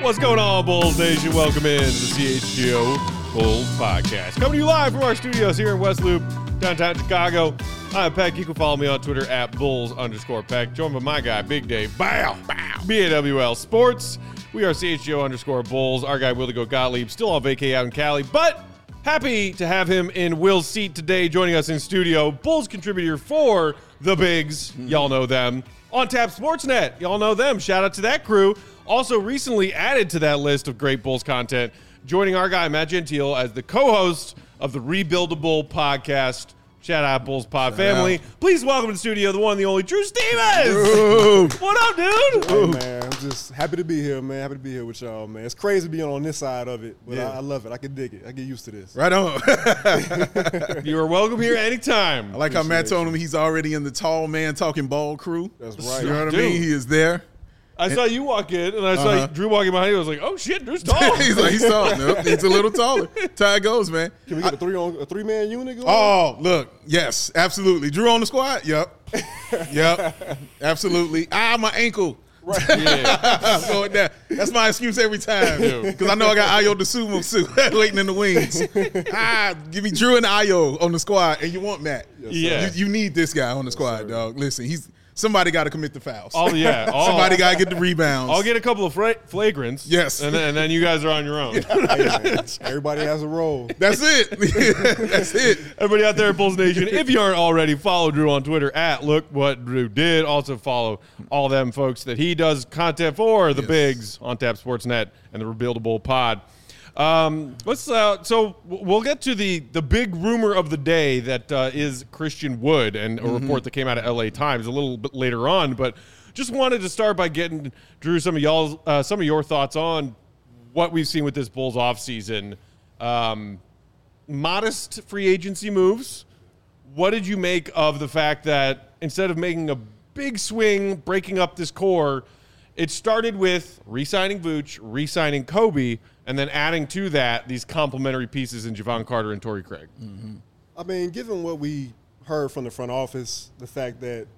What's going on, Bulls Nation? Welcome in to the CHGO Bulls Podcast. Coming to you live from our studios here in West Loop, downtown Chicago. I'm Peck. You can follow me on Twitter at Bulls_Peck. Joined by my guy, Big Dave. Bow. BAWL Sports. We are CHGO_Bulls. Our guy, Willie Gottlieb, still on vacay out in Cali, but happy to have him in Will's seat today, joining us in studio. Bulls contributor for the Bigs. Y'all know them. On Tap Sportsnet. Y'all know them. Shout out to that crew. Also recently added to that list of great Bulls content, joining our guy, Matt Gentile, as the co-host of the Rebuildable podcast. Shout out, Bulls Pod family. Please welcome to the studio the one and the only Drew Stevens. What up, dude? Hey, man, I'm just happy to be here, man. Happy to be here with y'all, man. It's crazy being on this side of it, but I love it. I can dig it. I get used to this. Right on. You are welcome here anytime. I like how Matt told him he's already in the tall man talking ball crew. That's right. You know what I mean? He is there. I saw you walk in, and I saw Drew walking behind you. I was like, oh, shit, Drew's tall. he's tall. Nope, he's a little taller. That's how it goes, man. Can we get a three-man unit going? Oh, look. Yes, absolutely. Drew on the squad? Yep. Yep. Absolutely. My ankle. Right. Yeah. I'm going down. That's my excuse every time. Because I know I got Ayo DeSumo waiting in the wings. Give me Drew and Ayo on the squad, and you want Matt. Yes, You need this guy on the squad, sir. dog. Listen, somebody got to commit the fouls. Somebody got to get the rebounds. I'll get a couple of flagrants. Yes. And then you guys are on your own. Hey, man, everybody has a role. That's it. That's it. Everybody out there at Bulls Nation, if you aren't already, follow Drew on Twitter at Look What Drew Did. Also follow all them folks that he does content for, the Bigs, on Tap Sportsnet, and the Rebuildable Pod. So we'll get to the big rumor of the day that is Christian Wood, and a report that came out of LA Times a little bit later on. But just wanted to start by getting Drew some of your thoughts on what we've seen with this Bulls offseason. Modest free agency moves. What did you make of the fact that instead of making a big swing, breaking up this core, it started with re-signing Vooch, re-signing Kobe, and then adding to that these complementary pieces in Javon Carter and Torrey Craig? I mean, given what we heard from the front office, the fact that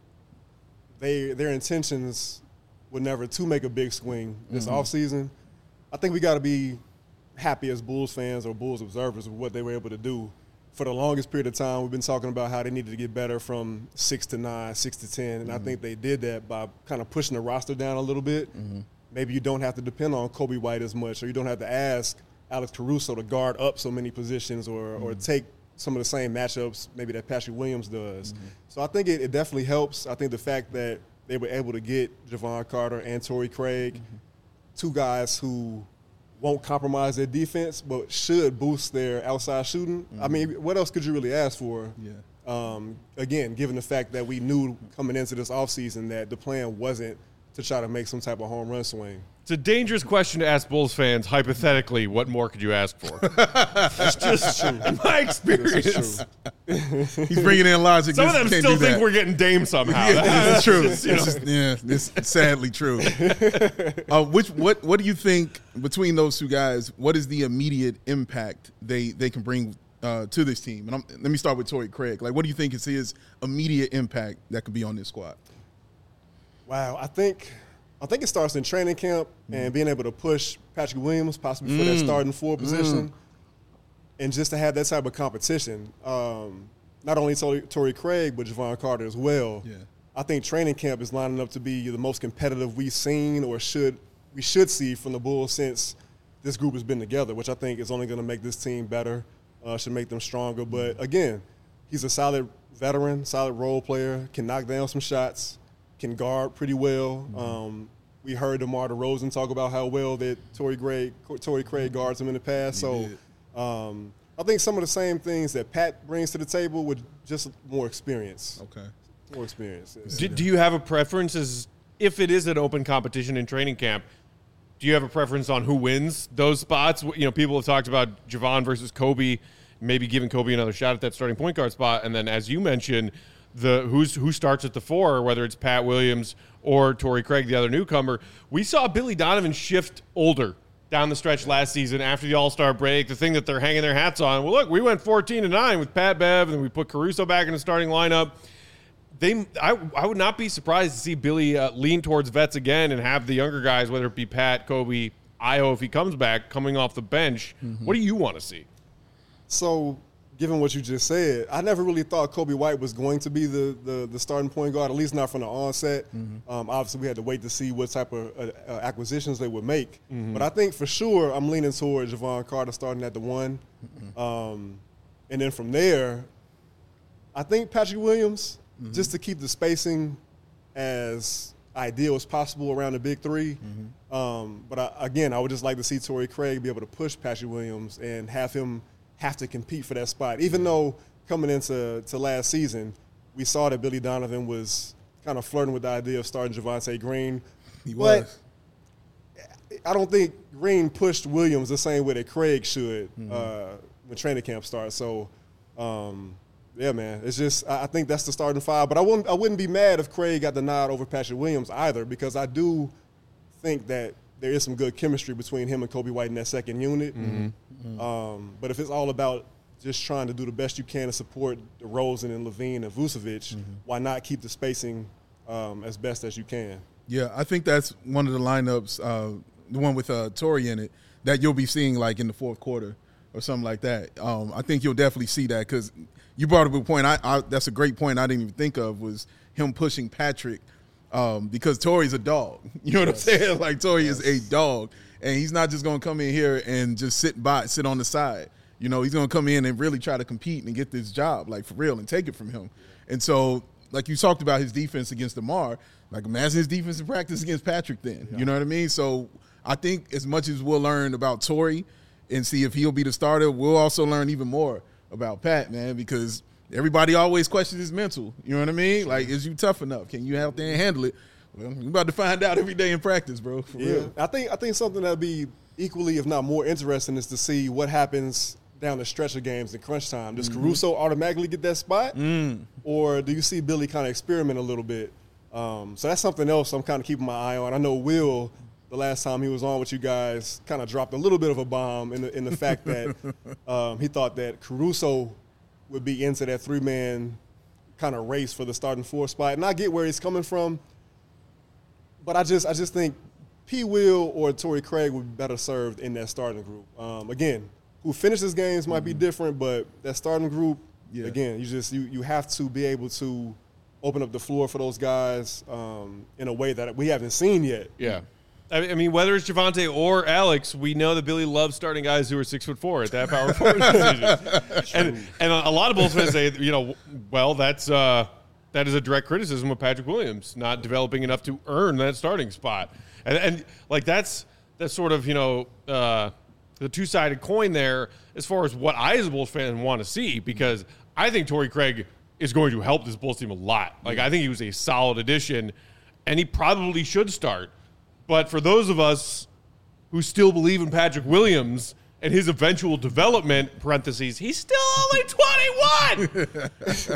their intentions were never to make a big swing this offseason, I think we got to be happy as Bulls fans or Bulls observers of what they were able to do. For the longest period of time, we've been talking about how they needed to get better from 6 to 9, 6 to 10, and I think they did that by kind of pushing the roster down a little bit. Maybe you don't have to depend on Kobe White as much, or you don't have to ask Alex Caruso to guard up so many positions or take some of the same matchups maybe that Patrick Williams does. So I think it definitely helps. I think the fact that they were able to get Javon Carter and Torrey Craig, two guys who won't compromise their defense but should boost their outside shooting. I mean, what else could you really ask for? Again, given the fact that we knew coming into this offseason that the plan wasn't to try to make some type of home run swing. It's a dangerous question to ask Bulls fans. Hypothetically, what more could you ask for? That's just true. In my experience. He's bringing in logic. Some of them still think we're getting Dame somehow. That's true. Just, It's sadly true. What do you think between those two guys? What is the immediate impact they can bring to this team? And let me start with Torrey Craig. Like, what do you think is his immediate impact that could be on this squad? Wow, I think it starts in training camp and being able to push Patrick Williams possibly for that starting four position, and just to have that type of competition. Not only Torrey Craig, but Javon Carter as well. Yeah. I think training camp is lining up to be the most competitive we've seen or we should see from the Bulls since this group has been together, which I think is only going to make this team better, should make them stronger. But, again, he's a solid veteran, solid role player, can knock down some shots, can guard pretty well. We heard DeMar DeRozan talk about how well that Torrey Craig guards him in the past. I think some of the same things that Pat brings to the table with just more experience. Okay. More experience. Do you have a preference as if it is an open competition in training camp? Do you have a preference on who wins those spots? You know, people have talked about Javon versus Kobe, maybe giving Kobe another shot at that starting point guard spot. And then, as you mentioned, who starts at the four, whether it's Pat Williams or Torrey Craig, the other newcomer. We saw Billy Donovan shift older down the stretch last season after the All-Star break, the thing that they're hanging their hats on. Well, look, we went 14-9 with Pat Bev, and we put Caruso back in the starting lineup. I would not be surprised to see Billy lean towards vets again and have the younger guys, whether it be Pat, Kobe, Ayo, if he comes back, coming off the bench, what do you want to see? So, given what you just said, I never really thought Kobe White was going to be the starting point guard, at least not from the onset. Obviously, we had to wait to see what type of acquisitions they would make. But I think for sure I'm leaning toward Jevon Carter starting at the 1. And then from there, I think Patrick Williams, just to keep the spacing as ideal as possible around the big 3. But again, I would just like to see Torrey Craig be able to push Patrick Williams and have him have to compete for that spot. Even though coming into last season, we saw that Billy Donovan was kind of flirting with the idea of starting Javonte Green. He was. I don't think Green pushed Williams the same way that Craig should when training camp starts. So, yeah, man, it's just I think that's the starting 5. But I wouldn't be mad if Craig got the nod over Patrick Williams either, because I do think that there is some good chemistry between him and Kobe White in that second unit. But if it's all about just trying to do the best you can to support DeRozan and Levine and Vucevic, why not keep the spacing as best as you can? Yeah, I think that's one of the lineups, the one with Torrey in it, that you'll be seeing like in the fourth quarter or something like that. I think you'll definitely see that, because you brought up a point. That's a great point I didn't even think of, was him pushing Patrick, because Torrey's a dog. You know what I'm saying? Like, Torrey is a dog, and he's not just going to come in here and just sit on the side. You know, he's going to come in and really try to compete and get this job, like, for real, and take it from him. And so, like you talked about his defense against DeMar, like, imagine his defensive practice against Patrick then. You know what I mean? So I think as much as we'll learn about Torrey and see if he'll be the starter, we'll also learn even more about Pat, man, because everybody always questions his mental. You know what I mean? Like, is you tough enough? Can you out there and handle it? Well, you're about to find out every day in practice, bro. For real. I think something that'd be equally, if not more interesting, is to see what happens down the stretch of games in crunch time. Does Caruso automatically get that spot? Or do you see Billy kind of experiment a little bit? So that's something else I'm kind of keeping my eye on. I know Will, the last time he was on with you guys, kind of dropped a little bit of a bomb in the fact that he thought that Caruso would be into that 3-man kind of race for the starting 4 spot. And I get where he's coming from, but I just think P. Will or Torrey Craig would be better served in that starting group. Again, who finishes games might be different, but that starting group, again, you have to be able to open up the floor for those guys in a way that we haven't seen yet. Yeah. I mean, whether it's Javonte or Alex, we know that Billy loves starting guys who are 6'4" at that power forward position. And a lot of Bulls fans say, well, that is a direct criticism of Patrick Williams not developing enough to earn that starting spot. And like that's sort of the two-sided coin there as far as what I as a Bulls fan want to see, because I think Torrey Craig is going to help this Bulls team a lot. Like, I think he was a solid addition, and he probably should start. But for those of us who still believe in Patrick Williams and his eventual development, parentheses, he's still only 21.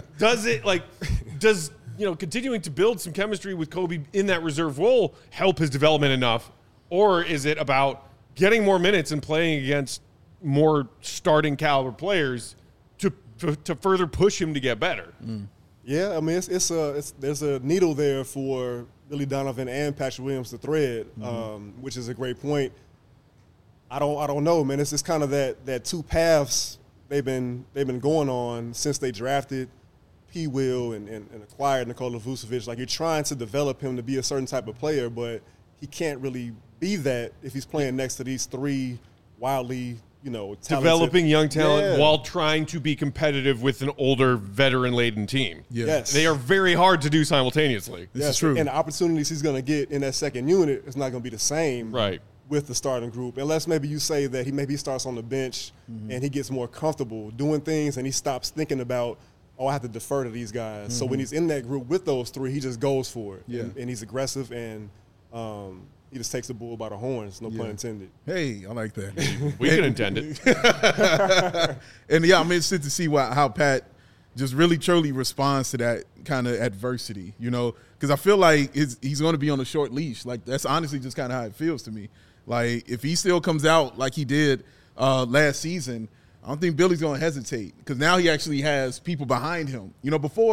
Does continuing to build some chemistry with Kobe in that reserve role help his development enough? Or is it about getting more minutes and playing against more starting caliber players to further push him to get better? Yeah, I mean, there's a needle there for Billy Donovan and Patrick Williams to thread, which is a great point. I don't know, man. It's just kind of that two paths they've been going on since they drafted P. Will and acquired Nikola Vucevic. Like, you're trying to develop him to be a certain type of player, but he can't really be that if he's playing next to these 3 wildly talented, developing young talent while trying to be competitive with an older, veteran-laden team. Yes. They are very hard to do simultaneously. This is true. And the opportunities he's going to get in that second unit is not going to be the same with the starting group, unless maybe you say that he starts on the bench and he gets more comfortable doing things and he stops thinking about, I have to defer to these guys. So when he's in that group with those 3, he just goes for it. And he's aggressive, and he just takes the bull by the horns, no pun intended. Hey, I like that. We can intend it. And, I'm interested to see how Pat just really, truly responds to that kind of adversity, because I feel like he's going to be on a short leash. Like, that's honestly just kind of how it feels to me. Like, if he still comes out like he did last season, I don't think Billy's going to hesitate, because now he actually has people behind him. Before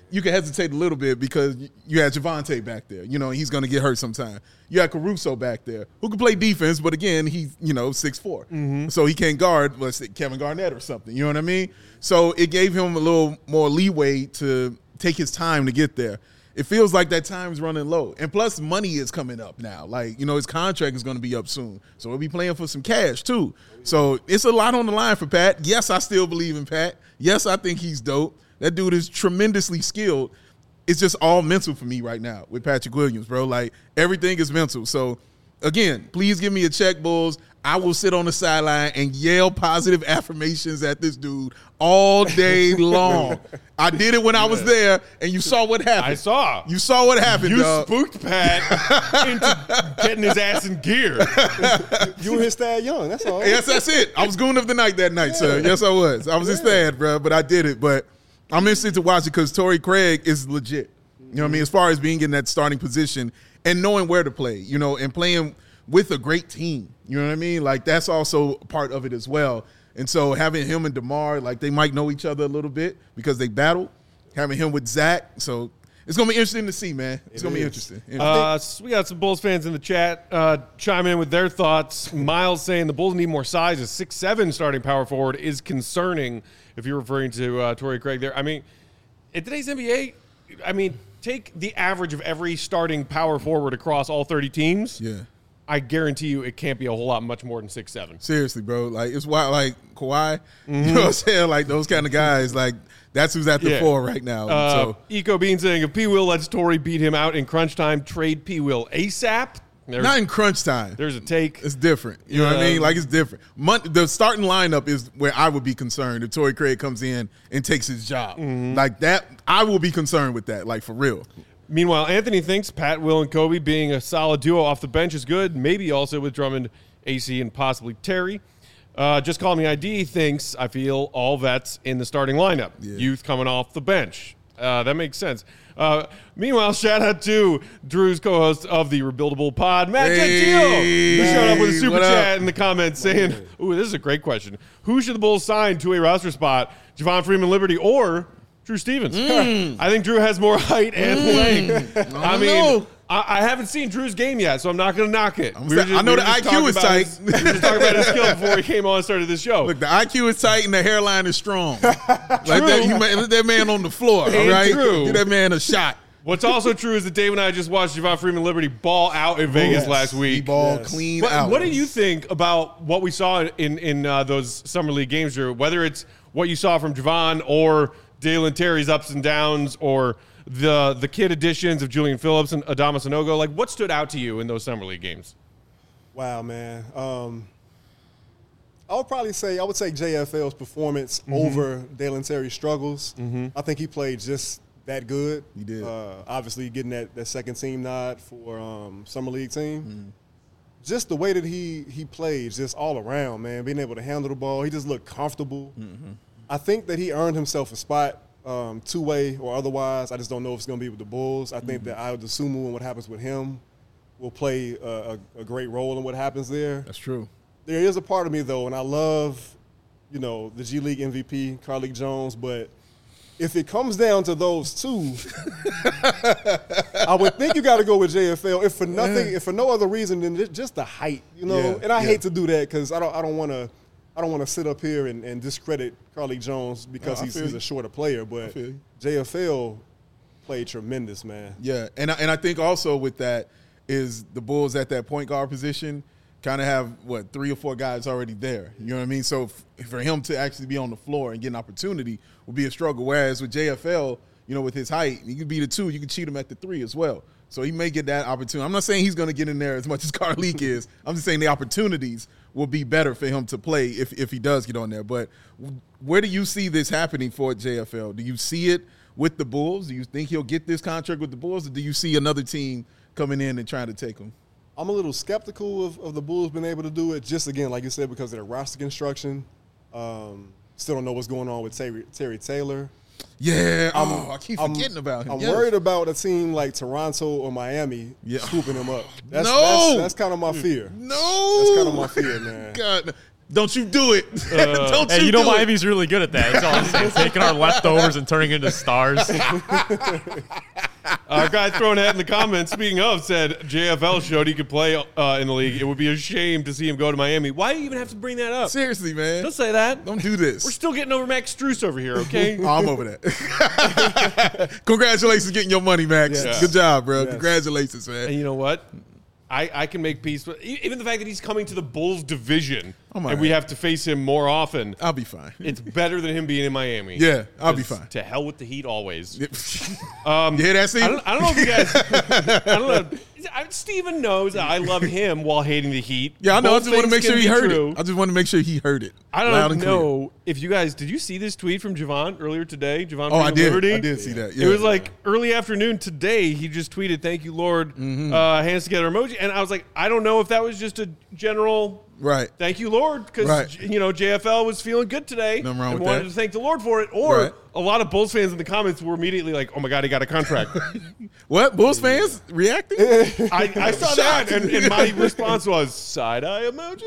you can hesitate a little bit because you had Javonte back there. You know, he's going to get hurt sometime. You had Caruso back there who can play defense, but again, he's, 6'4". So he can't guard, let's say, Kevin Garnett or something. You know what I mean? So it gave him a little more leeway to take his time to get there. It feels like that time's running low. And plus, money is coming up now. Like, his contract is going to be up soon. So we'll be playing for some cash, too. So it's a lot on the line for Pat. Yes, I still believe in Pat. Yes, I think he's dope. That dude is tremendously skilled. It's just all mental for me right now with Patrick Williams, bro. Like, everything is mental. So, again, please give me a check, Bulls. I will sit on the sideline and yell positive affirmations at this dude all day long. I did it when I was there, and you saw what happened. I saw. You saw what happened, You dog. spooked Pat into getting his ass in gear. You were his Thad Young. That's all. Yes, that's it. I was goon of the night that night, sir. Yes, I was. I was his dad, bro, but I did it. But I'm interested to watch it because Torrey Craig is legit. You know what I mean? As far as being in that starting position and knowing where to play, and playing with a great team. You know what I mean? Like, that's also part of it as well. And so having him and DeMar, like, they might know each other a little bit because they battle. Having him with Zach. So it's going to be interesting to see, man. It's going to be interesting. So we got some Bulls fans in the chat chime in with their thoughts. Miles saying the Bulls need more size. A 6'7" starting power forward is concerning if you're referring to Torrey Craig there. I mean, in today's NBA, take the average of every starting power forward across all 30 teams. Yeah. I guarantee you it can't be a whole lot much more than 6'7". Seriously, bro. Like, it's wild. Like, Kawhi, you know what I'm saying? Like, those kind of guys, like, that's who's at the fore right now. So Eco Bean saying, if P. Will lets Torrey beat him out in crunch time, trade P. Will ASAP. Not in crunch time. There's a take. It's different. You know what I mean? Like, it's different. The starting lineup is where I would be concerned if Torrey Craig comes in and takes his job. Like that, I will be concerned with that, like, for real. Meanwhile, Anthony thinks Pat, Will, and Kobe being a solid duo off the bench is good. Maybe also with Drummond, AC, and possibly Terry. Just Call Me ID thinks, I feel, all vets in the starting lineup. Yeah. Youth coming off the bench. That makes sense. Meanwhile, shout out to Drew's co-host of the Rebuildable Pod, Matt Gentile, who showed up with a super chat in the comments saying, ooh, this is a great question. Who should the Bulls sign to a roster spot? Javon Freeman Liberty or Drew Stevens? I think Drew has more height and length. I haven't seen Drew's game yet, so I'm not going to knock it. I know the IQ is tight. We were just talking about his skill before he came on and started this show. Look, the IQ is tight and the hairline is strong. Like that, that man on the floor, all right? Give that man a shot. What's also true is that Dave and I just watched Javon Freeman Liberty ball out in Vegas last week. He balled clean out. What do you think about what we saw in those Summer League games, Drew? Whether it's what you saw from Javon or Dalen Terry's ups and downs or the kid additions of Julian Phillips and Adama Sanogo, like what stood out to you in those Summer League games? Wow, man. I would say JFL's performance over Dalen Terry's struggles. I think he played just that good. He did. Obviously getting that second team nod for Summer League team. Just the way that he played, just all around, man, being able to handle the ball. He just looked comfortable. I think that he earned himself a spot two-way or otherwise. I just don't know if it's going to be with the Bulls. I think that Ayo Dosunmu and what happens with him will play a great role in what happens there. That's true. There is a part of me, though, and I love, the G League MVP, Carlik Jones, but if it comes down to those two, I would think you got to go with JFL. If for nothing, if for no other reason than just the height, And I hate to do that because I don't want to sit up here and discredit Carlik Jones because he's a shorter player, but JFL played tremendous, man. Yeah, and I think also with that is the Bulls at that point guard position kind of have, 3 or 4 guys already there. You know what I mean? So for him to actually be on the floor and get an opportunity will be a struggle, whereas with JFL, with his height, he can be the 2. You can cheat him at the 3 as well. So he may get that opportunity. I'm not saying he's going to get in there as much as Carlik is. I'm just saying the opportunities will be better for him to play if he does get on there. But where do you see this happening for JFL? Do you see it with the Bulls? Do you think he'll get this contract with the Bulls, or do you see another team coming in and trying to take him? I'm a little skeptical of the Bulls being able to do it, just, again, like you said, because of their roster construction. Still don't know what's going on with Terry Taylor. Yeah, I keep forgetting about him. I'm worried about a team like Toronto or Miami scooping him up. That's kind of my fear. No. That's kind of my fear, man. God. Don't you do it. Don't Hey, you you know do it. Miami's really good at that. That's all I'm saying. Taking our leftovers and turning into stars. Our guy throwing that in the comments, speaking of, said JFL showed he could play in the league. It would be a shame to see him go to Miami. Why do you even have to bring that up? Seriously, man. Don't say that. Don't do this. We're still getting over Max Strus over here, okay? Oh, I'm over that. Congratulations getting your money, Max. Yes. Good job, bro. Yes. Congratulations, man. And you know what? I can make peace with even the fact that he's coming to the Bulls division and we have to face him more often. I'll be fine. It's better than him being in Miami. Yeah, I'll be fine. To hell with the Heat always. You hear that, Steve? I don't know if you guys. I don't know. Steven knows that I love him while hating the Heat. Yeah, I know. Both I just want to things make sure can he be heard true. it. I just want to make sure he heard it. I loud don't and clear. know if you guys did you see this tweet from Javon earlier today? Javon Oh, I from did. Liberty? I did see that. It Yeah. was like early afternoon today. He just tweeted, "Thank you, Lord." Hands together emoji, and I was like, I don't know if that was just a general. Right. Thank you, Lord, because Right. JFL was feeling good today Nothing wrong and with wanted that. to thank the Lord for it. Or Right. a lot of Bulls fans in the comments were immediately like, "Oh my God, he got a contract." What? Bulls fans reacting? I saw that, and my response was side eye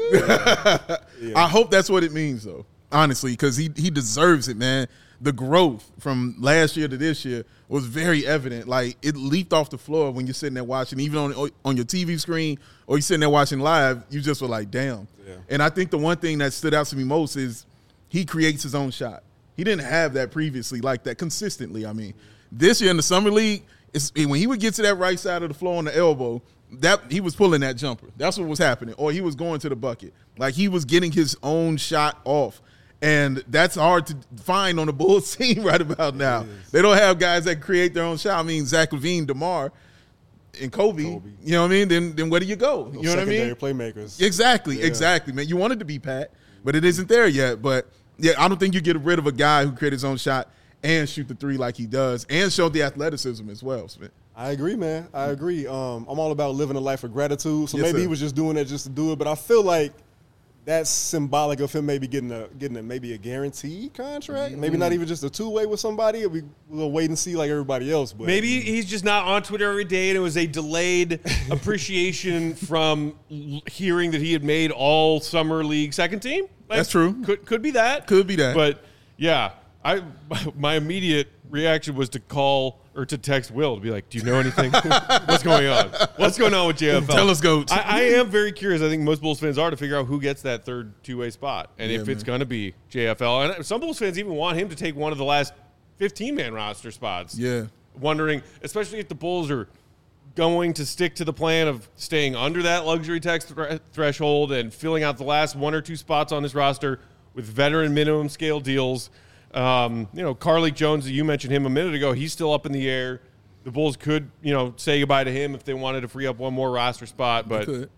emoji. I hope that's what it means, though, honestly, because he deserves it, man. The growth from last year to this year was very evident. Like, it leaped off the floor when you're sitting there watching, even on your TV screen or you're sitting there watching live, you just were like, damn. Yeah. And I think the one thing that stood out to me most is he creates his own shot. He didn't have that previously like that consistently. I mean, this year in the Summer League, when he would get to that right side of the floor on the elbow, that he was pulling that jumper. That's what was happening. Or he was going to the bucket. Like, he was getting his own shot off. And that's hard to find on the Bulls team right about now. They don't have guys that create their own shot. I mean, Zach LaVine, DeMar, and Kobe. You know what I mean? Then where do you go? You know what I mean? Secondary playmakers. Exactly, man. You wanted to be Pat, but it isn't there yet. But, yeah, I don't think you get rid of a guy who created his own shot and shoot the three like he does and show the athleticism as well, Smith. I agree, man. I agree. I'm all about living a life of gratitude. So Yes, maybe sir. he was just doing that just to do it. But I feel like that's symbolic of him maybe getting a guaranteed contract. Maybe not even just a two-way with somebody. We'll wait and see like everybody else. But Maybe he's just not on Twitter every day, and it was a delayed appreciation from hearing that he had made all summer league second team. Like, That's true. Could be that. Could be that. But yeah, my immediate reaction was to call or to text Will to be like, "Do you know anything? What's going on? What's going on with JFL? Tell us, Goat." I am very curious. I think most Bulls fans are to figure out who gets that third two-way spot, and Yeah, if it's man. going to be JFL. And some Bulls fans even want him to take one of the last 15-man roster spots. Yeah. Wondering, especially if the Bulls are going to stick to the plan of staying under that luxury tax threshold and filling out the last one or two spots on this roster with veteran minimum scale deals. Carlik Jones, you mentioned him a minute ago. He's still up in the air. The Bulls could, say goodbye to him if they wanted to free up one more roster spot. But could.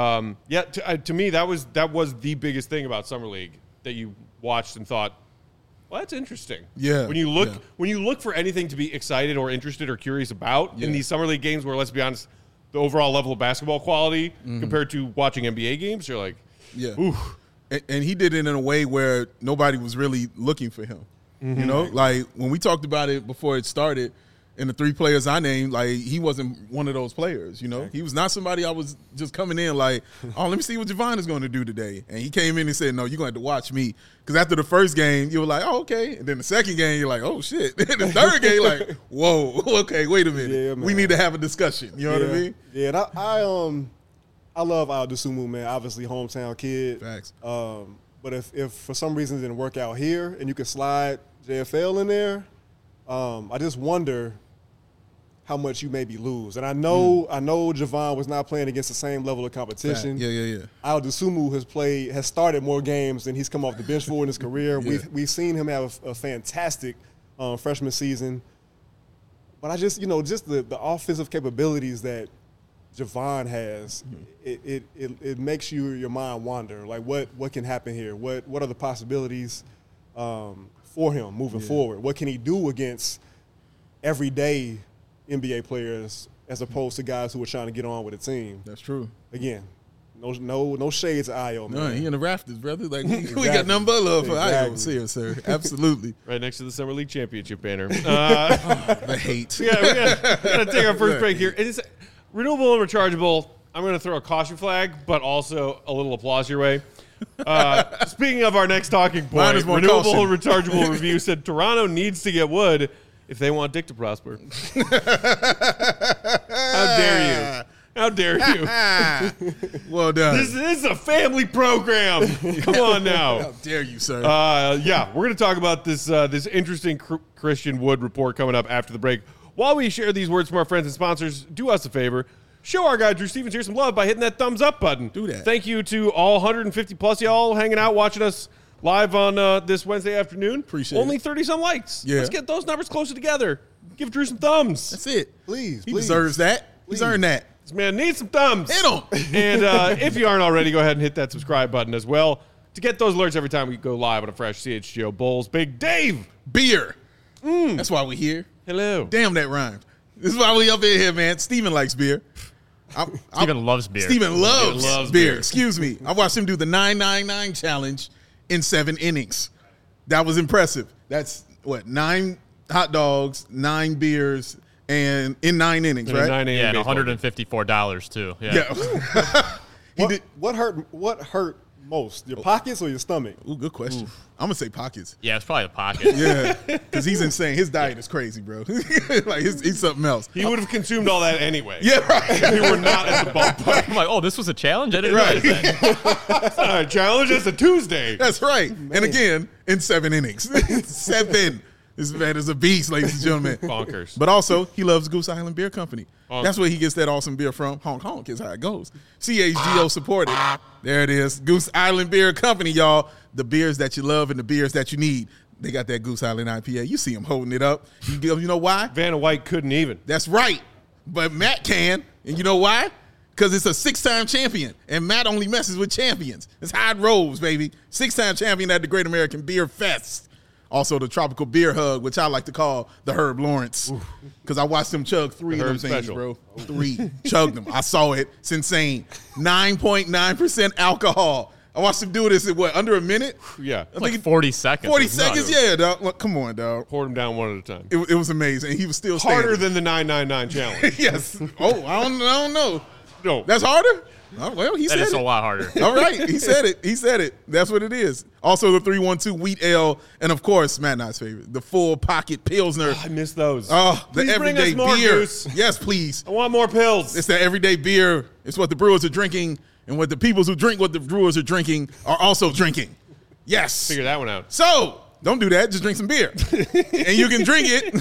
to me, that was the biggest thing about Summer League that you watched and thought, well, that's interesting. Yeah, When you look for anything to be excited or interested or curious about in these Summer League games where, let's be honest, the overall level of basketball quality compared to watching NBA games, you're like, Yeah. ooh. And he did it in a way where nobody was really looking for him. You know, like when we talked about it before it started, and the three players I named, like he wasn't one of those players. He was not somebody I was just coming in like, oh, let me see what Javon is going to do today. And he came in and said, no, you're going to have to watch me. Because after the first game, you were like, oh, okay. And then the second game, you're like, oh shit. And the third game, like, whoa, okay, wait a minute. Yeah, man. We need to have a discussion. You know what I mean? Yeah, and I love Al Dosunmu, man. Obviously, hometown kid. Facts. But if for some reason it didn't work out here and you could slide JFL in there, I just wonder how much you maybe lose. And I know Javon was not playing against the same level of competition. Yeah. Al Dosunmu has started more games than he's come off the bench for in his career. Yeah. We've seen him have a fantastic freshman season. But I just the offensive capabilities that Javon has, it makes your mind wander. Like what can happen here? What are the possibilities for him moving forward? What can he do against everyday NBA players as opposed to guys who are trying to get on with a team? That's true. Again, no shades of Io, man. No, he in the rafters, brother. Like we got nothing but love for Io here, sir. Absolutely. Right next to the Summer League championship banner. The hate. We gotta take our first break here. It is renewable and rechargeable. I'm going to throw a caution flag, but also a little applause your way. Speaking of our next talking Mine point, is more Renewable caution. Rechargeable Review said Toronto needs to get Wood if they want Dick to prosper. How dare you? How dare you? Well done. This is a family program. Come on now. How dare you, sir? Yeah, we're going to talk about this this interesting Christian Wood report coming up after the break. While we share these words from our friends and sponsors, do us a favor. Show our guy Drew Stevens here some love by hitting that thumbs up button. Do that. Thank you to all 150 plus y'all hanging out, watching us live on this Wednesday afternoon. Appreciate Only it. 30-some likes. Yeah. Let's get those numbers closer together. Give Drew some thumbs. That's it. Please, He please. deserves that. He's earned that. This man needs some thumbs. Hit him. And if you aren't already, go ahead and hit that subscribe button as well to get those alerts every time we go live on a fresh CHGO Bulls. Big Dave. Beer. That's why we're here. Hello. Damn, that rhymed. This is why we up in here, man. Steven likes beer. Steven loves beer. Steven loves, loves beer. beer. Excuse me. I watched him do the 999 challenge in 7 innings. That was impressive. That's what, 9 hot dogs, 9 beers, and in 9 innings, In a right? 9 a.m. Yeah, and baseball game. $154 too. Yeah. Yeah. What hurt most? Your pockets or your stomach? Ooh, good question. I'm gonna say pockets. Yeah, it's probably the pocket. Yeah, because he's insane. His diet is crazy, bro. Like he's something else. He would have consumed all that anyway. Yeah, right. If we were not at the ballpark. I'm like, oh, this was a challenge? I didn't Right. realize that. All right, challenge. It's a Tuesday. That's right. And again, in 7 innings. 7. This man is a beast, ladies and gentlemen. Bonkers. But also, he loves Goose Island Beer Company. Honk. That's where he gets that awesome beer from. Honk, honk is how it goes. CHGO supported. There it is. Goose Island Beer Company, y'all. The beers that you love and the beers that you need. They got that Goose Island IPA. You see him holding it up. You know why? Vanna White couldn't even. That's right. But Matt can. And you know why? Because it's a 6-time champion. And Matt only messes with champions. It's how it rolls, baby. 6-time champion at the Great American Beer Fest. Also, the Tropical Beer Hug, which I like to call the Herb Lawrence. Because I watched him chug 3 The of them Herb things, special. bro. 3. Chugged them. I saw it. It's insane. 9.9% alcohol. I watched him do this in what, under a minute? Yeah. I Like think 40 seconds. 40 It's nuts. seconds? Yeah, dog. Look, come on, dog. Poured them down one at a time. It was amazing. And he was still Harder standing. than the 999 challenge. Yes. Oh, I don't know. No. That's harder? Oh, well, he That said is it. a lot harder. All right. He said it. He said it. That's what it is. Also, the 312 Wheat Ale. And, of course, Matt Knight's favorite, the Full Pocket Pilsner. I miss those. Oh, the Please bring everyday us more, beer. Goose. Yes, please. I want more pills. It's the everyday beer. It's what the brewers are drinking. And what the people who drink what the brewers are drinking are also drinking. Yes. Figure that one out. So, don't do that. Just drink some beer. And you can drink it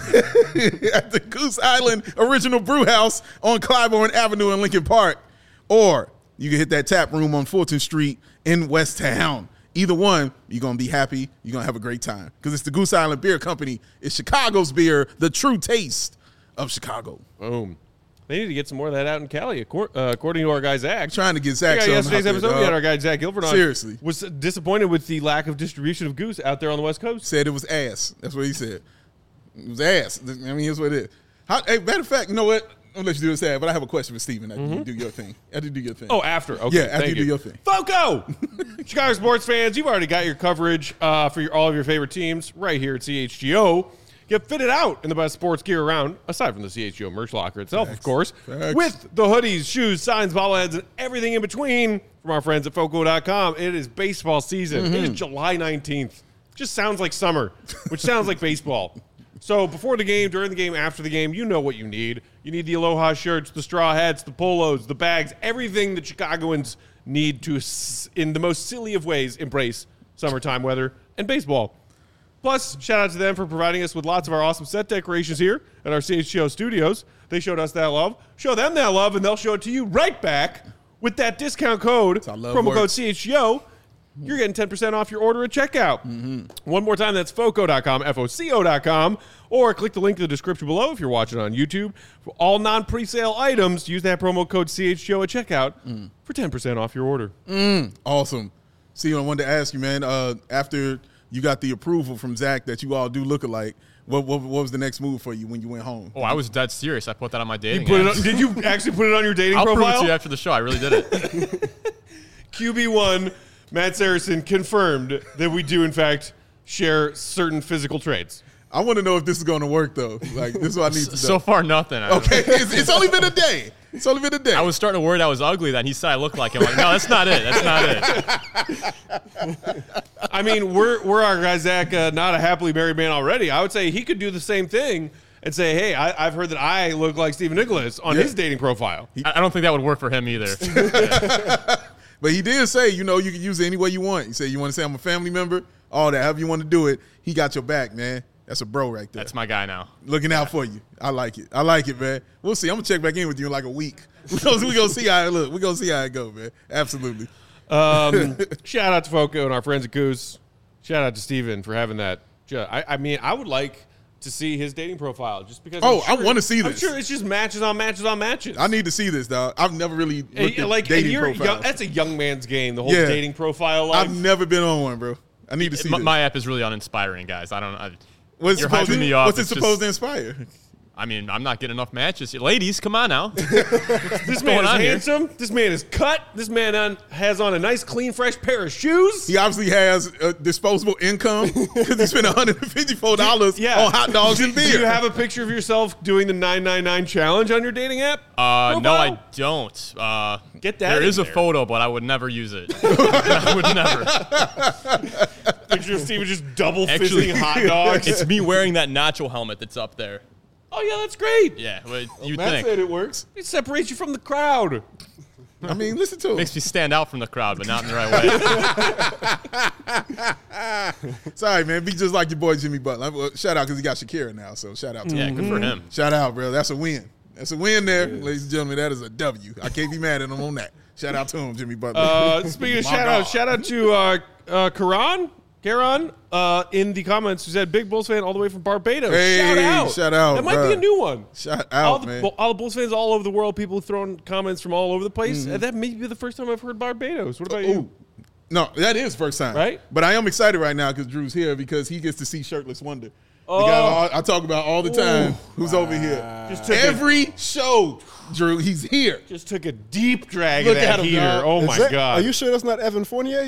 at the Goose Island Original Brew House on Clybourne Avenue in Lincoln Park. Or you can hit that tap room on Fulton Street in West Town. Either one, you're going to be happy. You're going to have a great time. Because it's the Goose Island Beer Company. It's Chicago's beer, the true taste of Chicago. Boom. They need to get some more of that out in Cali, according to our guy Zach. Trying to get Zach Yeah, something yesterday's out there, episode, we dog. had our guy Zach Gilbert on. Seriously. Was disappointed with the lack of distribution of Goose out there on the West Coast. Said it was ass. That's what he said. It was ass. I mean, here's what it is. Hey, matter of fact, you know what? I'll let you do this ad, but I have a question for Steven after you do your thing. After you do your thing. Oh, after. Okay, Yeah, after thank you do your thing. FOCO! Chicago sports fans, you've already got your coverage for all of your favorite teams right here at CHGO. Get fitted out in the best sports gear around, aside from the CHGO merch locker itself, of course, Facts. with the hoodies, shoes, signs, bobbleheads, and everything in between from our friends at FOCO.com. It is baseball season. It is July 19th. Just sounds like summer, which sounds like baseball. So before the game, during the game, after the game, you know what you need. You need the Aloha shirts, the straw hats, the polos, the bags, everything that Chicagoans need to, in the most silly of ways, embrace summertime weather and baseball. Plus, shout out to them for providing us with lots of our awesome set decorations here at our CHGO studios. They showed us that love. Show them that love, and they'll show it to you right back with that discount code, how love promo code works. CHGO. You're getting 10% off your order at checkout. One more time, that's FOCO.com, FOCO.com, or click the link in the description below if you're watching on YouTube. For all non-presale items, use that promo code CHGO at checkout for 10% off your order. Awesome. See, I wanted to ask you, man, after you got the approval from Zach that you all do look alike, what was the next move for you when you went home? Oh, I was dead serious. I put that on my dating Put it apps. on, did you actually put it on your dating I'll prove it profile? to you after the show. I really did it. QB1, Matt Saracen confirmed that we do, in fact, share certain physical traits. I want to know if this is going to work, though. Like, this is what I need to know. So far, nothing. Okay, it's only been a day. It's only been a day. I was starting to worry I was ugly. Then he said I looked like him. I'm like, no, that's not it. That's not it. I mean, we're our guy Zach, not a happily married man already. I would say he could do the same thing and say, hey, I've heard that I look like Stephen Nicholas on his dating profile. I don't think that would work for him either. But he did say, you can use it any way you want. He said, you want to say I'm a family member? All that, however you want to do it. He got your back, man. That's a bro right there. That's my guy now. Looking out for you. I like it. I like it, man. We'll see. I'm going to check back in with you in like a week. We're going to see how it look. We're going to see how it go, man. Absolutely. Shout out to Foco and our friends at Goose. Shout out to Steven for having that. I mean, I would like to see his dating profile just because. I want to see this. I'm sure it's just matches on matches on matches. I need to see this, dog. I've never really looked at like dating profiles. That's a young man's game, the whole dating profile life. I've never been on one, bro. I need to see this. My app is really uninspiring, guys. What's you're hyping me up. What's it supposed to inspire? I mean, I'm not getting enough matches. Ladies, come on now. This man is handsome. This man is cut. This man has on a nice, clean, fresh pair of shoes. He obviously has disposable income because he spent $154 on hot dogs and beer. Do you have a picture of yourself doing the 999 challenge on your dating app? No, I don't. Get that. There is a photo, but I would never use it. I would never. Picture of Steven just double fisting hot dogs. It's me wearing that nacho helmet that's up there. Oh, yeah, that's great. Yeah, well, you Matt think. said it works. It separates you from the crowd. I mean, listen to him. Makes me stand out from the crowd, but not in the right way. Sorry, man. Be just like your boy Jimmy Butler. Well, shout out because he got Shakira now, so shout out to him. Yeah, good for him. Shout out, bro. That's a win. That's a win there, ladies and gentlemen. That is a W. I can't be mad at him on that. Shout out to him, Jimmy Butler. Speaking of shout out to Karan in the comments who said big Bulls fan all the way from Barbados. Hey, shout out. That might be a new one. Shout out, man. All the Bulls fans all over the world, people throwing comments from all over the place. And that may be the first time I've heard Barbados. What about you? No, that is first time. Right? But I am excited right now because Drew's here because he gets to see Shirtless Wonder. The guy I talk about all the time who's over here. Every show, Drew, he's here. Just took a deep drag Look of that at him, heater. dog. Oh, my God. Are you sure that's not Evan Fournier?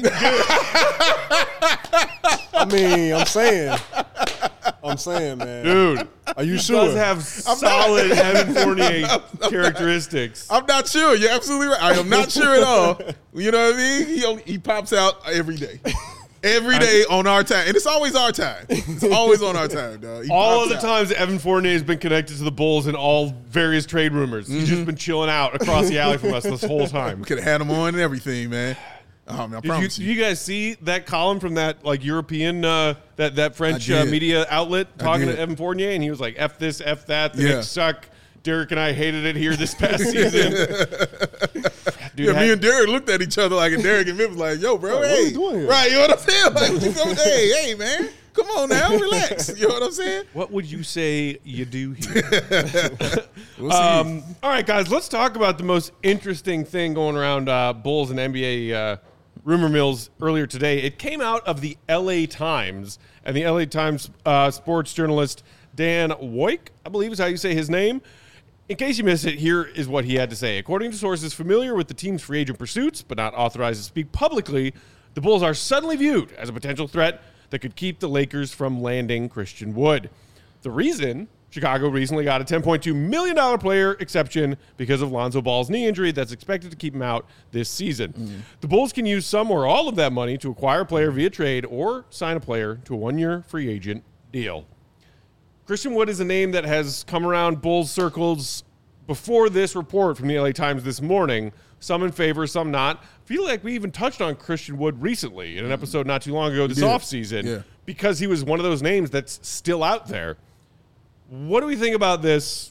I mean, I'm saying, man. Dude. Are you He sure? does have solid Evan Fournier characteristics. I'm not sure. You're absolutely right. I am not sure at all. You know what I mean? He pops out every day. Every day on our time. And it's always our time. It's always on our time, dog. All of the times Evan Fournier has been connected to the Bulls in all various trade rumors. He's just been chilling out across the alley from us this whole time. We could have had him on and everything, man. Oh, man, I promise Did you guys see that column from that European that French I did. media outlet talking did. to Evan Fournier, and he was like, "F this, F that, the Yeah. Knicks suck." Derek and I hated it here this past season. Dude, me and Derek looked at each other like, and Derek and Mick was like, yo, bro, What hey. are you doing here? Right, you know what I'm saying? Like, hey, man, come on now, relax. You know what I'm saying? what would you say you do here? We'll see. All right, guys, let's talk about the most interesting thing going around Bulls and NBA rumor mills earlier today. It came out of the LA Times, and the LA Times sports journalist Dan Woik, I believe is how you say his name. In case you missed it, here is what he had to say. According to sources familiar with the team's free agent pursuits, but not authorized to speak publicly, the Bulls are suddenly viewed as a potential threat that could keep the Lakers from landing Christian Wood. The reason? Chicago recently got a $10.2 million player exception because of Lonzo Ball's knee injury that's expected to keep him out this season. The Bulls can use some or all of that money to acquire a player via trade or sign a player to a one-year free agent deal. Christian Wood is a name that has come around Bulls circles before this report from the LA Times this morning. Some in favor, some not. I feel like we even touched on Christian Wood recently in an episode not too long ago this offseason because he was one of those names that's still out there. What do we think about this,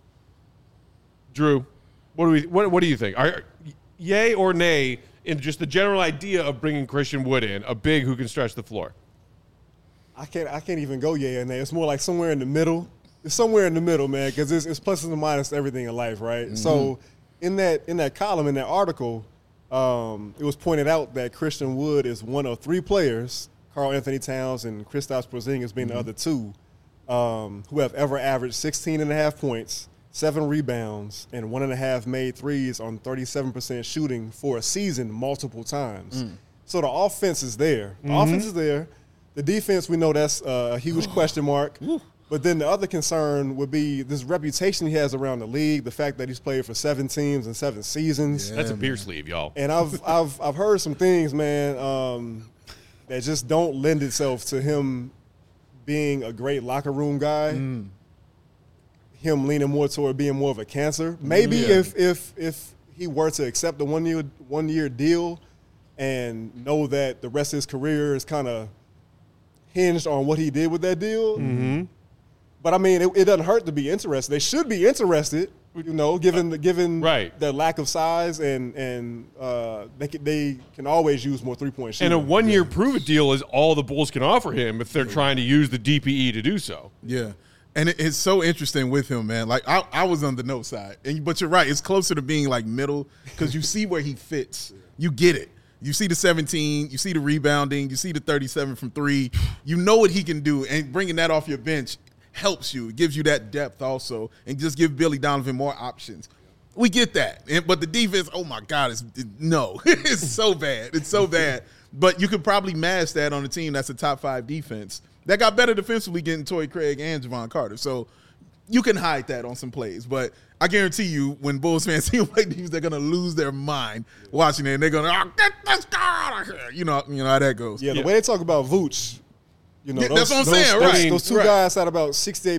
Drew? What do you think? Yay or nay in just the general idea of bringing Christian Wood in, a big who can stretch the floor? I can't even go yay or nay. It's more like somewhere in the middle. It's somewhere in the middle, man, because it's pluses and minuses to everything in life, right? Mm-hmm. So in that column, in that article, it was pointed out that Christian Wood is one of three players, Karl Anthony Towns and Kristaps Porzingis being the other two, who have ever averaged 16.5 points, 7 rebounds, and 1.5 made threes on 37% shooting for a season multiple times. So the offense is there. The offense is there. The defense, we know that's a huge question mark. But then the other concern would be this reputation he has around the league, the fact that he's played for 7 teams and 7 seasons. That's a beer sleeve, y'all. And I've heard some things, man, that just don't lend itself to him being a great locker room guy. Him leaning more toward being more of a cancer. Maybe if he were to accept the 1 year deal and know that the rest of his career is kind of hinged on what he did with that deal. But I mean, it doesn't hurt to be interested. They should be interested, you know, given the lack of size, and they can always use more 3-point shooting. And a 1 year prove-it deal is all the Bulls can offer him if they're trying to use the DPE to do so. Yeah. And it's so interesting with him, man. Like, I was on the no side. But you're right. It's closer to being, like, middle because you see where he fits. You get it. You see the 17. You see the rebounding. You see the 37 from 3. You know what he can do. And bringing that off your bench helps you. It gives you that depth also and just give Billy Donovan more options. We get that. But the defense, oh, my God, no. It's so bad. It's so bad. But you could probably mask that on a team that's a top 5 defense that got better defensively getting Torrey Craig and Javon Carter. So you can hide that on some plays. But I guarantee you when Bulls fans see him play defense, they're going to lose their mind watching it. And they're going to, get this guy out of here. You know how that goes. Yeah, the way they talk about Vooch, you know, that's what I'm saying, right? Those two guys had about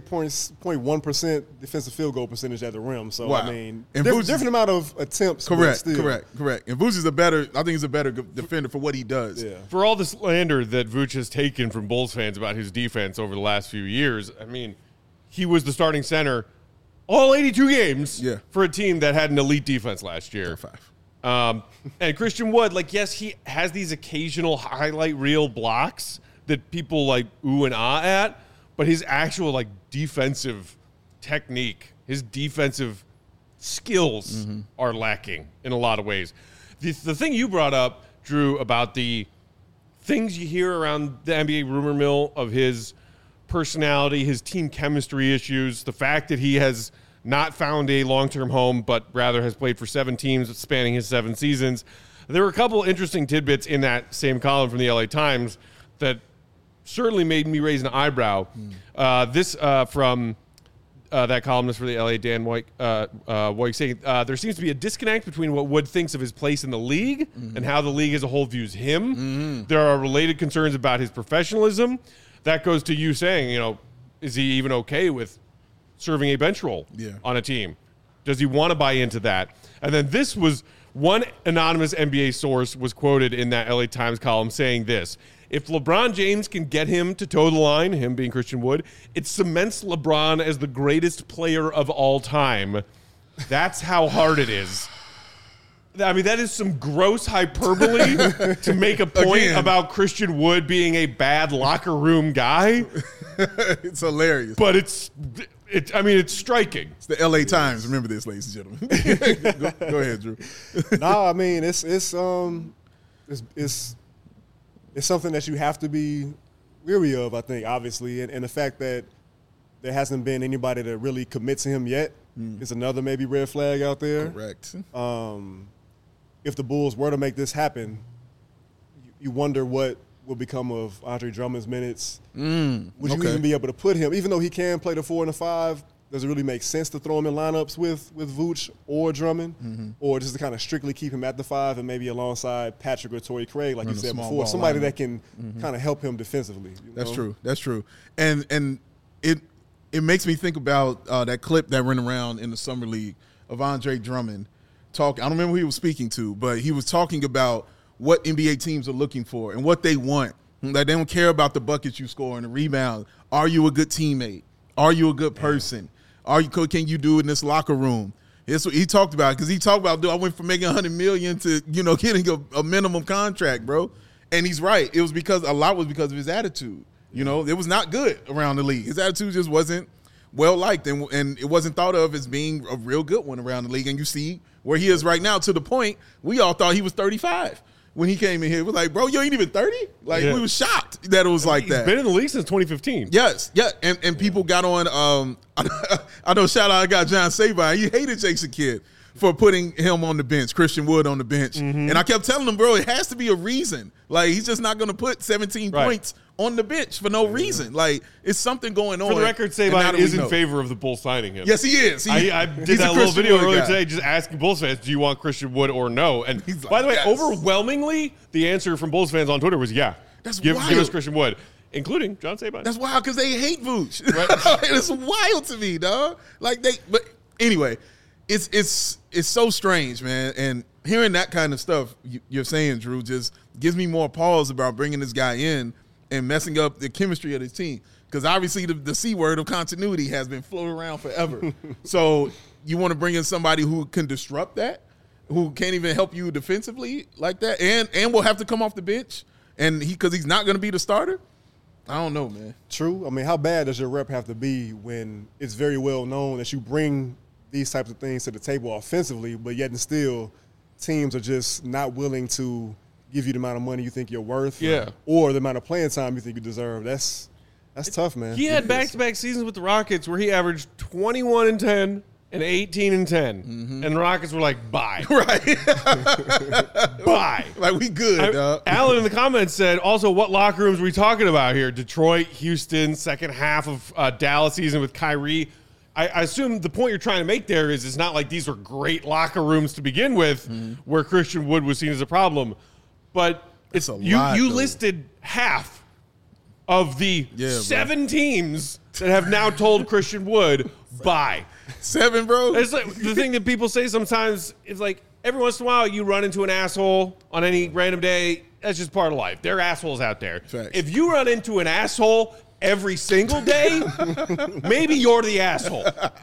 68.1% defensive field goal percentage at the rim. So, I mean, different amount of attempts. Correct. And Vooch is I think he's a better defender for what he does. Yeah. For all the slander that Vooch has taken from Bulls fans about his defense over the last few years, I mean, he was the starting center all 82 games for a team that had an elite defense last year. And Christian Wood, like, yes, he has these occasional highlight reel blocks that people like ooh and ah at, but his actual like defensive technique, his defensive skills are lacking in a lot of ways. The thing you brought up, Drew, about the things you hear around the NBA rumor mill of his personality, his team chemistry issues, the fact that he has not found a long-term home, but rather has played for 7 teams spanning his 7 seasons. There were a couple interesting tidbits in that same column from the LA Times that certainly made me raise an eyebrow. This from that columnist for the LA, Dan White, saying there seems to be a disconnect between what Wood thinks of his place in the league and how the league as a whole views him. There are related concerns about his professionalism. That goes to you saying, you know, is he even okay with serving a bench role on a team? Does he want to buy into that? And then this was one anonymous NBA source was quoted in that LA Times column saying this: if LeBron James can get him to toe the line, him being Christian Wood, it cements LeBron as the greatest player of all time. That's how hard it is. I mean, that is some gross hyperbole to make a point about Christian Wood being a bad locker room guy. It's hilarious. But it's striking. It's the LA Times. Remember this, ladies and gentlemen. Go ahead, Drew. I mean, it's something that you have to be weary of, I think, obviously. And the fact that there hasn't been anybody that really commits to him yet is another maybe red flag out there. Correct. If the Bulls were to make this happen, you wonder what will become of Andre Drummond's minutes. Would you even be able to put him, even though he can play the 4 and the 5, does it really make sense to throw him in lineups with Vooch or Drummond? Or just to kind of strictly keep him at the 5 and maybe alongside Patrick or Torrey Craig, like you said before, somebody that can kind of help him defensively. That's true. That's true. And it makes me think about that clip that went around in the Summer League of Andre Drummond talking. I don't remember who he was speaking to, but he was talking about what NBA teams are looking for and what they want. Like, they don't care about the buckets you score and the rebound. Are you a good teammate? Are you a good person? Can you do it in this locker room? That's what he talked about, because he talked about, I went from making $100 million to, getting a minimum contract, bro. And he's right. It was a lot was because of his attitude. It was not good around the league. His attitude just wasn't well liked, and it wasn't thought of as being a real good one around the league. And you see where he is right now, to the point we all thought he was 35 when he came in here. We're like, bro, you ain't even 30? Like, we was shocked that it was like that. He's been in the league since 2015. Yes, yeah. And people got on, I know, shout out, I got John Sabine. He hated Jason Kidd for putting him on the bench, Christian Wood on the bench. And I kept telling him, bro, it has to be a reason. Like, he's just not going to put 17 points on the bench for no reason. Like, it's something going on. For the record, Sabine is in favor of the Bulls signing him. Yes, he is. I did that little video earlier today just asking Bulls fans, do you want Christian Wood or no? And by the way, overwhelmingly, the answer from Bulls fans on Twitter was yeah. That's give wild. us Christian Wood, including John Sabine. That's wild because they hate Vooch. Right? It's wild to me, dog. Like but anyway, it's so strange, man. And hearing that kind of stuff you're saying, Drew, just gives me more pause about bringing this guy in and messing up the chemistry of this team. Because obviously the C word of continuity has been floating around forever. So you want to bring in somebody who can disrupt that, who can't even help you defensively like that, and will have to come off the bench, and because he's not going to be the starter. I don't know, man. True. I mean, how bad does your rep have to be when it's very well known that you bring these types of things to the table offensively, but yet and still teams are just not willing to give you the amount of money you think you're worth, or the amount of playing time you think you deserve. That's tough, man. He had back-to-back seasons with the Rockets where he averaged 21-10 and 18-10, and the Rockets were like, bye. Right. Bye. Like, we good, dog. Alan in the comments said, also, what locker rooms are we talking about here? Detroit, Houston, second half of Dallas season with Kyrie. I assume the point you're trying to make there is it's not like these were great locker rooms to begin with where Christian Wood was seen as a problem. But it's you listed half of the 7 teams that have now told Christian Wood, bye. 7, bro? It's like the thing that people say sometimes is like every once in a while you run into an asshole on any random day. That's just part of life. There are assholes out there. Facts. If you run into an asshole every single day, maybe you're the asshole.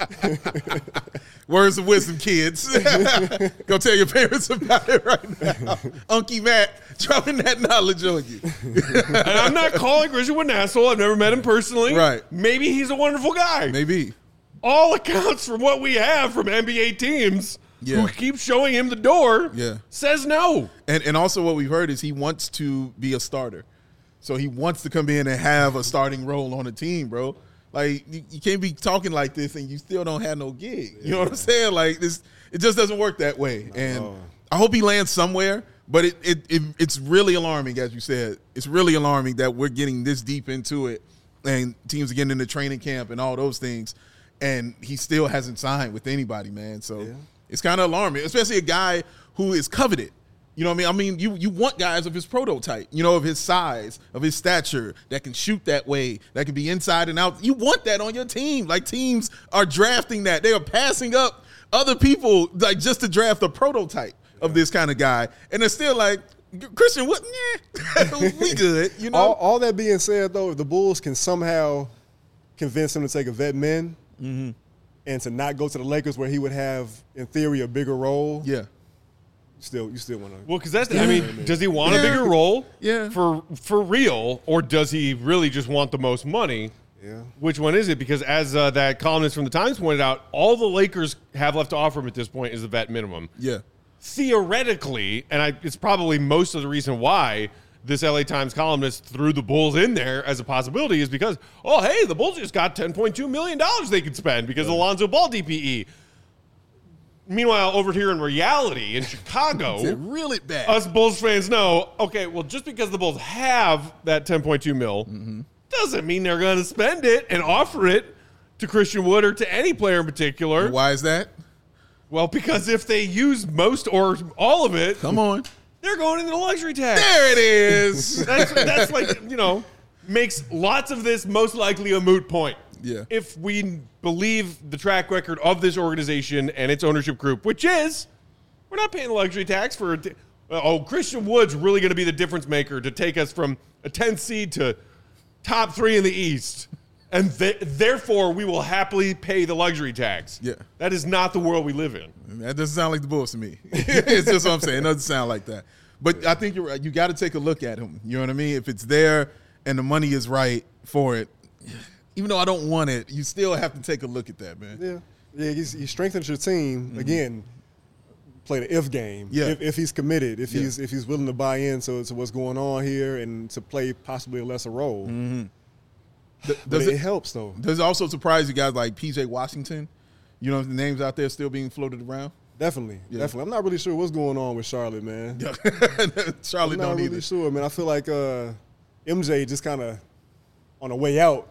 Words of wisdom, kids. Go tell your parents about it right now. Unky Matt dropping that knowledge on you. And I'm not calling Christian Wood an asshole. I've never met him personally. Right. Maybe he's a wonderful guy. Maybe. All accounts from what we have from NBA teams who keep showing him the door says no. And also what we've heard is he wants to be a starter. So he wants to come in and have a starting role on a team, bro. Like, you can't be talking like this and you still don't have no gig. You know what I'm saying? Like, this, it just doesn't work that way. And I hope he lands somewhere, but it's really alarming, as you said. It's really alarming that we're getting this deep into it and teams are getting into training camp and all those things, and he still hasn't signed with anybody, man. So it's kind of alarming, especially a guy who is coveted. You know what I mean? You want guys of his prototype, you know, of his size, of his stature, that can shoot that way, that can be inside and out. You want that on your team. Like, teams are drafting that. They are passing up other people, like, just to draft a prototype of this kind of guy. And they're still like, Christian, what? Nah, we good, you know? All that being said, though, if the Bulls can somehow convince him to take a vet min and to not go to the Lakers where he would have, in theory, a bigger role. Yeah. You still want to. Well, because that's I mean, does he want a bigger role for real, or does he really just want the most money? Yeah. Which one is it? Because as that columnist from the Times pointed out, all the Lakers have left to offer him at this point is the vet minimum. Yeah. Theoretically, and it's probably most of the reason why this LA Times columnist threw the Bulls in there as a possibility is because, oh, hey, the Bulls just got $10.2 million they could spend because of Alonzo Ball DPE. Meanwhile, over here in reality, in Chicago, reel it back. Us Bulls fans know, okay, well, just because the Bulls have that $10.2 mil doesn't mean they're going to spend it and offer it to Christian Wood or to any player in particular. Why is that? Well, because if they use most or all of it, come on, they're going into the luxury tax. There it is. That's like, you know, makes lots of this most likely a moot point. Yeah. If we believe the track record of this organization and its ownership group, which is we're not paying the luxury tax for Christian Wood's really going to be the difference maker to take us from a 10th seed to top 3 in the East. And therefore, we will happily pay the luxury tax. Yeah. That is not the world we live in. That doesn't sound like the Bulls to me. It's just what I'm saying. It doesn't sound like that. But I think you're right. You got to take a look at him. You know what I mean? If it's there and the money is right for it, even though I don't want it, you still have to take a look at that, man. Yeah. He strengthens your team. Again, play the if game. Yeah. If he's committed, if he's willing to buy in to what's going on here and to play possibly a lesser role. But it helps, though. Does it also surprise you guys like P.J. Washington? You know, the names out there still being floated around? Definitely. I'm not really sure what's going on with Charlotte, man. Charlotte I'm not don't really either. sure, man. I feel like MJ just kind of on the way out.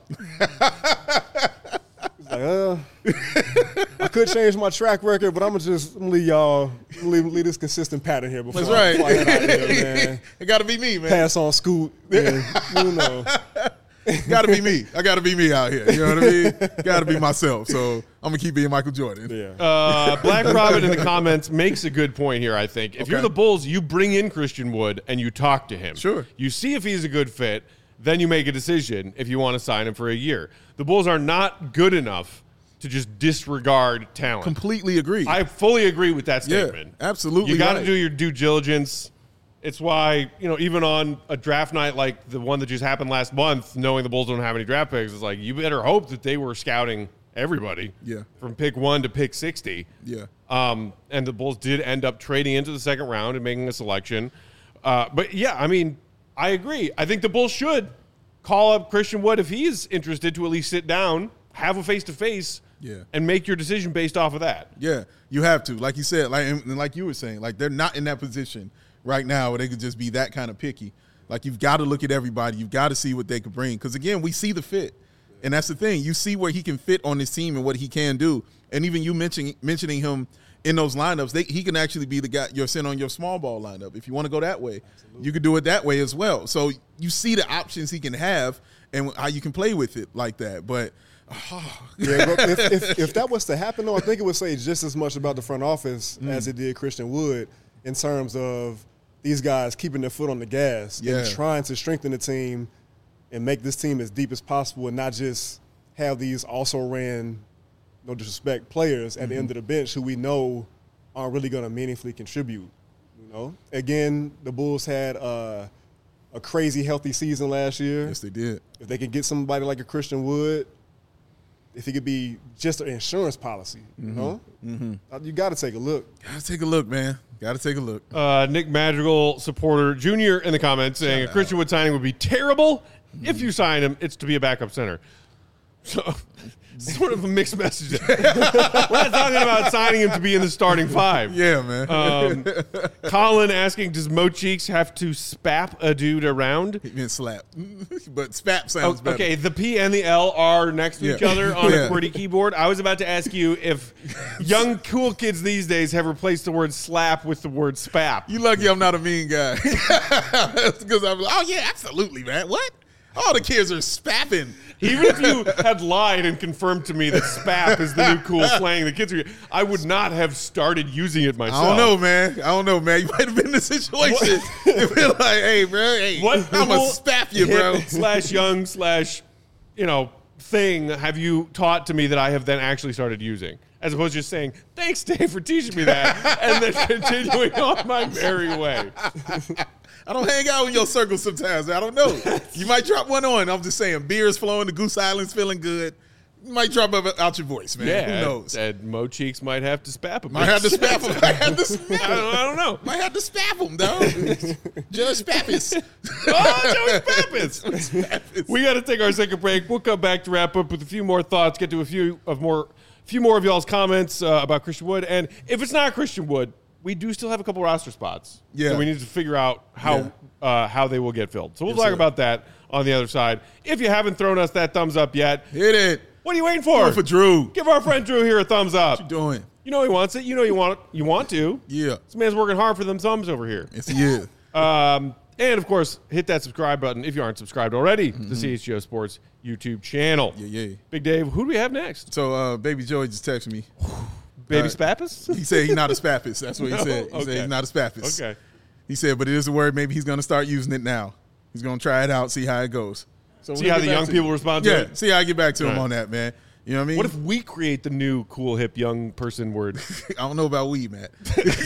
He's like, I could change my track record, but I'm gonna just leave y'all leave this consistent pattern here before That's right. before I head out here, man. It got to be me, man. Pass on Scoot. And, you know. Got to be me. I got to be me out here. You know what I mean? Got to be myself. So I'm gonna keep being Michael Jordan. Yeah. Black Robin in the comments makes a good point here, I think. If you're the Bulls, you bring in Christian Wood and you talk to him. Sure. You see if he's a good fit, then you make a decision if you want to sign him for a year. The Bulls are not good enough to just disregard talent. Completely agree. I fully agree with that statement. Yeah, absolutely. You got to right. do your due diligence. It's why, even on a draft night like the one that just happened last month, knowing the Bulls don't have any draft picks, it's like you better hope that they were scouting everybody from pick 1 to pick 60. Yeah. And the Bulls did end up trading into the second round and making a selection. But, yeah, I mean, I agree. I think the Bulls should call up Christian Wood if he's interested to at least sit down, have a face-to-face, and make your decision based off of that. Yeah, you have to. Like you said, like you were saying, like they're not in that position right now where they could just be that kind of picky. Like you've got to look at everybody. You've got to see what they could bring. Because, again, we see the fit. And that's the thing. You see where he can fit on this team and what he can do. And even you mentioning him in those lineups, he can actually be the guy you're sitting on your small ball lineup. If you want to go that way, you could do it that way as well. So you see the options he can have and how you can play with it like that. But if that was to happen, though, I think it would say just as much about the front office as it did Christian Wood in terms of these guys keeping their foot on the gas and trying to strengthen the team and make this team as deep as possible and not just have these also-ran, no disrespect, players at the end of the bench who we know aren't really going to meaningfully contribute. Again, the Bulls had a crazy healthy season last year. Yes, they did. If they could get somebody like a Christian Wood, if it could be just an insurance policy, you got to take a look. Got to take a look, man. Got to take a look. Nick Madrigal supporter Jr. in the comments saying a Christian Wood signing would be terrible. If you sign him, it's to be a backup center. So sort of a mixed message. We're not talking about signing him to be in the starting 5. Yeah, man. Colin asking, does Mo Cheeks have to spap a dude around? He meant slap. But spap sounds better. Okay, the P and the L are next to each other on a QWERTY keyboard. I was about to ask you if young cool kids these days have replaced the word slap with the word spap. You lucky I'm not a mean guy. Because I'm like, oh, yeah, absolutely, man. What? All the kids are spapping. Even if you had lied and confirmed to me that spap is the new cool slang the kids are, I would not have started using it myself. I don't know, man. You might have been in the situation. You'd be like, hey, bro, I'm going to spap you, bro. /young/ thing have you taught to me that I have then actually started using? As opposed to just saying, thanks, Dave, for teaching me that, and then continuing on my merry way. I don't hang out in your circle sometimes. I don't know. You might drop one on. I'm just saying, beer is flowing, the Goose Island's feeling good. You might drop out your voice, man. Yeah, who knows? And Mo Cheeks might have to spap him. Might have to spap him. I don't know. Might have to spap him, dog. Judge Spappis. Oh, Joey Spappis. We got to take our second break. We'll come back to wrap up with a few more thoughts, get to a few more of y'all's comments about Christian Wood. And if it's not Christian Wood, we do still have a couple roster spots. Yeah. So we need to figure out how they will get filled. So we'll talk about that on the other side. If you haven't thrown us that thumbs up yet, hit it. What are you waiting for? For Drew. Give our friend Drew here a thumbs up. What you doing? You know he wants it. You know you want it. You want to. Yeah. This man's working hard for them thumbs over here. Yes, he is. And, of course, hit that subscribe button if you aren't subscribed already to the CHGO Sports YouTube channel. Yeah. Big Dave, who do we have next? So, Baby Joey just texted me. Baby Spappis? He said he's not a spappist. That's what he said. He said he's not a spappist. Okay. He said, but it is a word. Maybe he's going to start using it now. He's going to try it out, see how it goes. So see how the young people respond to it? Yeah, see how I get back to him on that, man. You know what I mean? What if we create the new cool, hip, young person word? I don't know about we, Matt.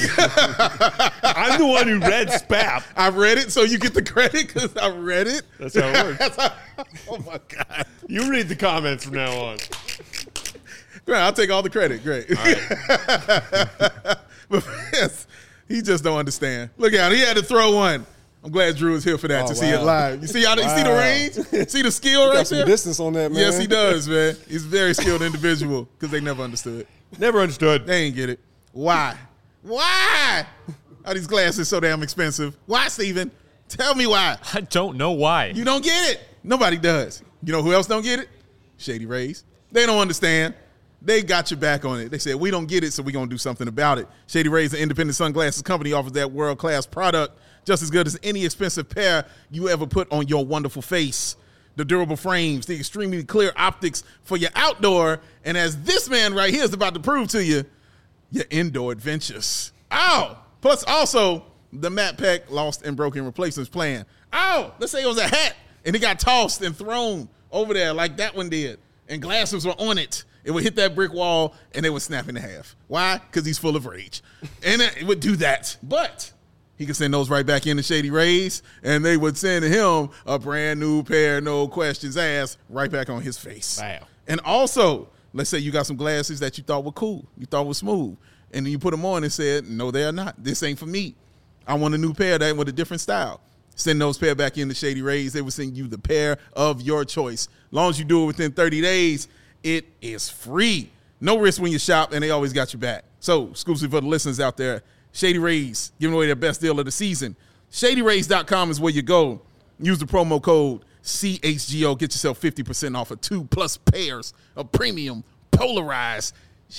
I'm the one who read SPAP. I read it, so you get the credit because I read it. That's how it works. Oh, my God. You read the comments from now on. Right, I'll take all the credit. Great. All right. But yes, he just don't understand. Look out. He had to throw one. I'm glad Drew is here for that see it live. You see how you see the range? See the skill right got some there? distance on that, man. Yes, he does, man. He's a very skilled individual because they never understood. Never understood. They ain't get it. Why? Why are these glasses so damn expensive? Why, Steven? Tell me why. I don't know why. You don't get it. Nobody does. You know who else don't get it? Shady Rays. They don't understand. They got your back on it. They said, we don't get it, so we're going to do something about it. Shady Rays, an independent sunglasses company, offers that world-class product just as good as any expensive pair you ever put on your wonderful face. The durable frames, the extremely clear optics for your outdoor, and as this man right here is about to prove to you, your indoor adventures. Ow! Plus also, the Matt Peck lost and broken replacements plan. Ow! Let's say it was a hat, and it got tossed and thrown over there like that one did, and glasses were on it. It would hit that brick wall, and it would snap in half. Why? Because he's full of rage. And it would do that. But he could send those right back into Shady Rays, and they would send him a brand new pair, no questions asked, right back on his face. Wow. And also, let's say you got some glasses that you thought were cool, you thought were smooth, and then you put them on and said, no, they are not. This ain't for me. I want a new pair that with a different style. Send those pair back into Shady Rays. They will send you the pair of your choice. As long as you do it within 30 days, it is free. No risk when you shop, and they always got your back. So, exclusive for the listeners out there, Shady Rays giving away their best deal of the season. ShadyRays.com is where you go. Use the promo code CHGO. Get yourself 50% off of 2+ pairs of premium polarized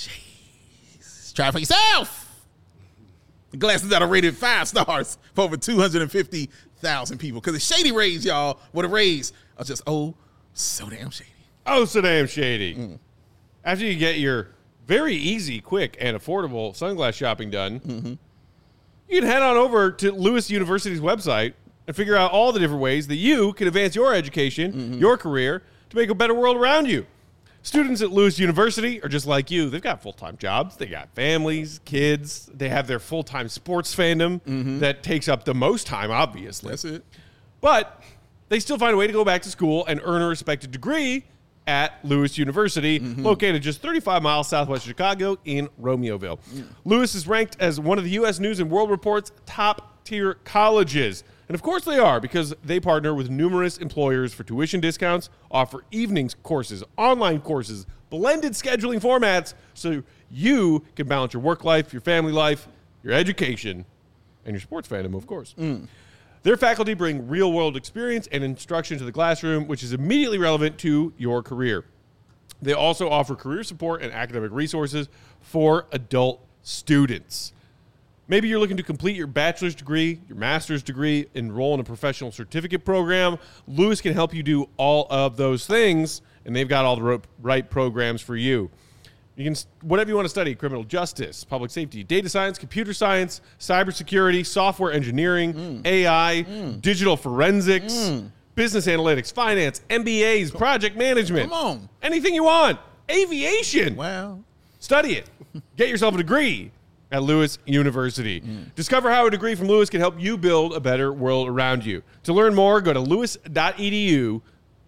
shades. Try it for yourself. The glasses that are rated 5 stars for over 250,000 people. Because the Shady Rays, y'all, what the Rays are just, so damn shady. Oh, so damn shady. After you get your very easy, quick, and affordable sunglass shopping done, you can head on over to Lewis University's website and figure out all the different ways that you can advance your education, your career, to make a better world around you. Students at Lewis University are just like you. They've got full-time jobs. They got families, kids. They have their full-time sports fandom that takes up the most time, obviously. That's it. But they still find a way to go back to school and earn a respected degree at Lewis University, located just 35 miles southwest of Chicago in Romeoville. Lewis is ranked as one of the U.S. News and World Report's top-tier colleges. And of course they are, because they partner with numerous employers for tuition discounts, offer evenings courses, online courses, blended scheduling formats, so you can balance your work life, your family life, your education, and your sports fandom, of course. Their faculty bring real-world experience and instruction to the classroom, which is immediately relevant to your career. They also offer career support and academic resources for adult students. Maybe you're looking to complete your bachelor's degree, your master's degree, enroll in a professional certificate program. Lewis can help you do all of those things, and they've got all the right programs for you. You can, whatever you want to study, criminal justice, public safety, data science, computer science, cybersecurity, software engineering, AI, digital forensics, business analytics, finance, MBAs, project management. Come on. Anything you want. Aviation. Wow. Study it. Get yourself a degree at Lewis University. Discover how a degree from Lewis can help you build a better world around you. To learn more, go to lewis.edu,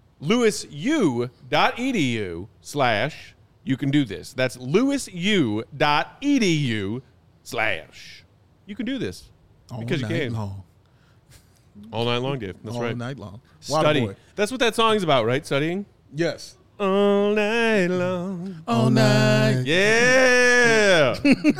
lewisu.edu/ you can do this. That's lewisu.edu/ you can do this. Because you can. Long. All night long, Dave. That's All right. night long. Study. Waterboy. That's what that song's about, right? Studying? Yes. All night long. All night. Yeah.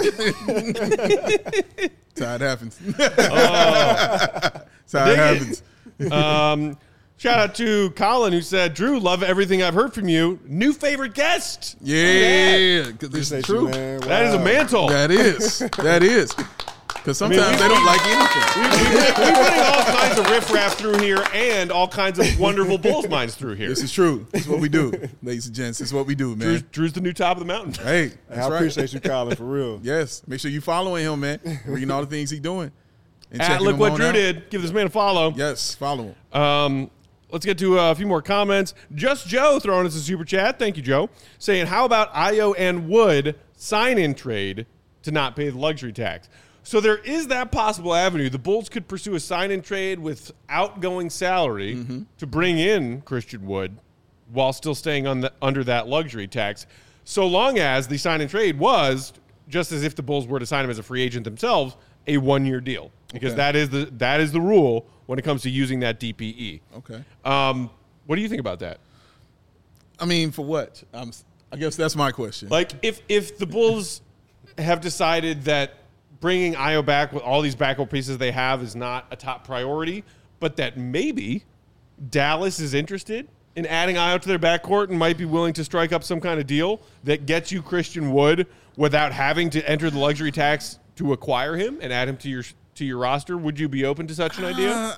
That's how it happens. That's how it happens. Shout out to Colin, who said, Drew, love everything I've heard from you. New favorite guest. Yeah. Because this is Appreciate true. you, man. Wow. That is a mantle. That is. That is. Because sometimes they don't like anything. We're putting all kinds of riffraff through here and all kinds of wonderful Bulls minds through here. This is true. This is what we do, ladies and gents. This is what we do, man. Drew's the new top of the mountain. Hey, I that's right. appreciate you, Colin, for real. Yes. Make sure you following him, man. Reading all the things he's doing. And At checking Look him What on Drew out. Did. Give this man a follow. Yes, follow him. Let's get to a few more comments. Just Joe throwing us a super chat. Thank you, Joe. Saying, how about Ayo and Wood sign-in trade to not pay the luxury tax? So there is that possible avenue. The Bulls could pursue a sign-in trade with outgoing salary to bring in Christian Wood while still staying on under that luxury tax, so long as the sign-in trade was, just as if the Bulls were to sign him as a free agent themselves, a one-year deal. Because that is the rule when it comes to using that DPE. Okay. What do you think about that? I mean, for what? I guess that's my question. Like, if the Bulls have decided that bringing Ayo back with all these backup pieces they have is not a top priority, but that maybe Dallas is interested in adding Ayo to their backcourt and might be willing to strike up some kind of deal that gets you Christian Wood without having to enter the luxury tax to acquire him and add him to your roster? Would you be open to such an idea?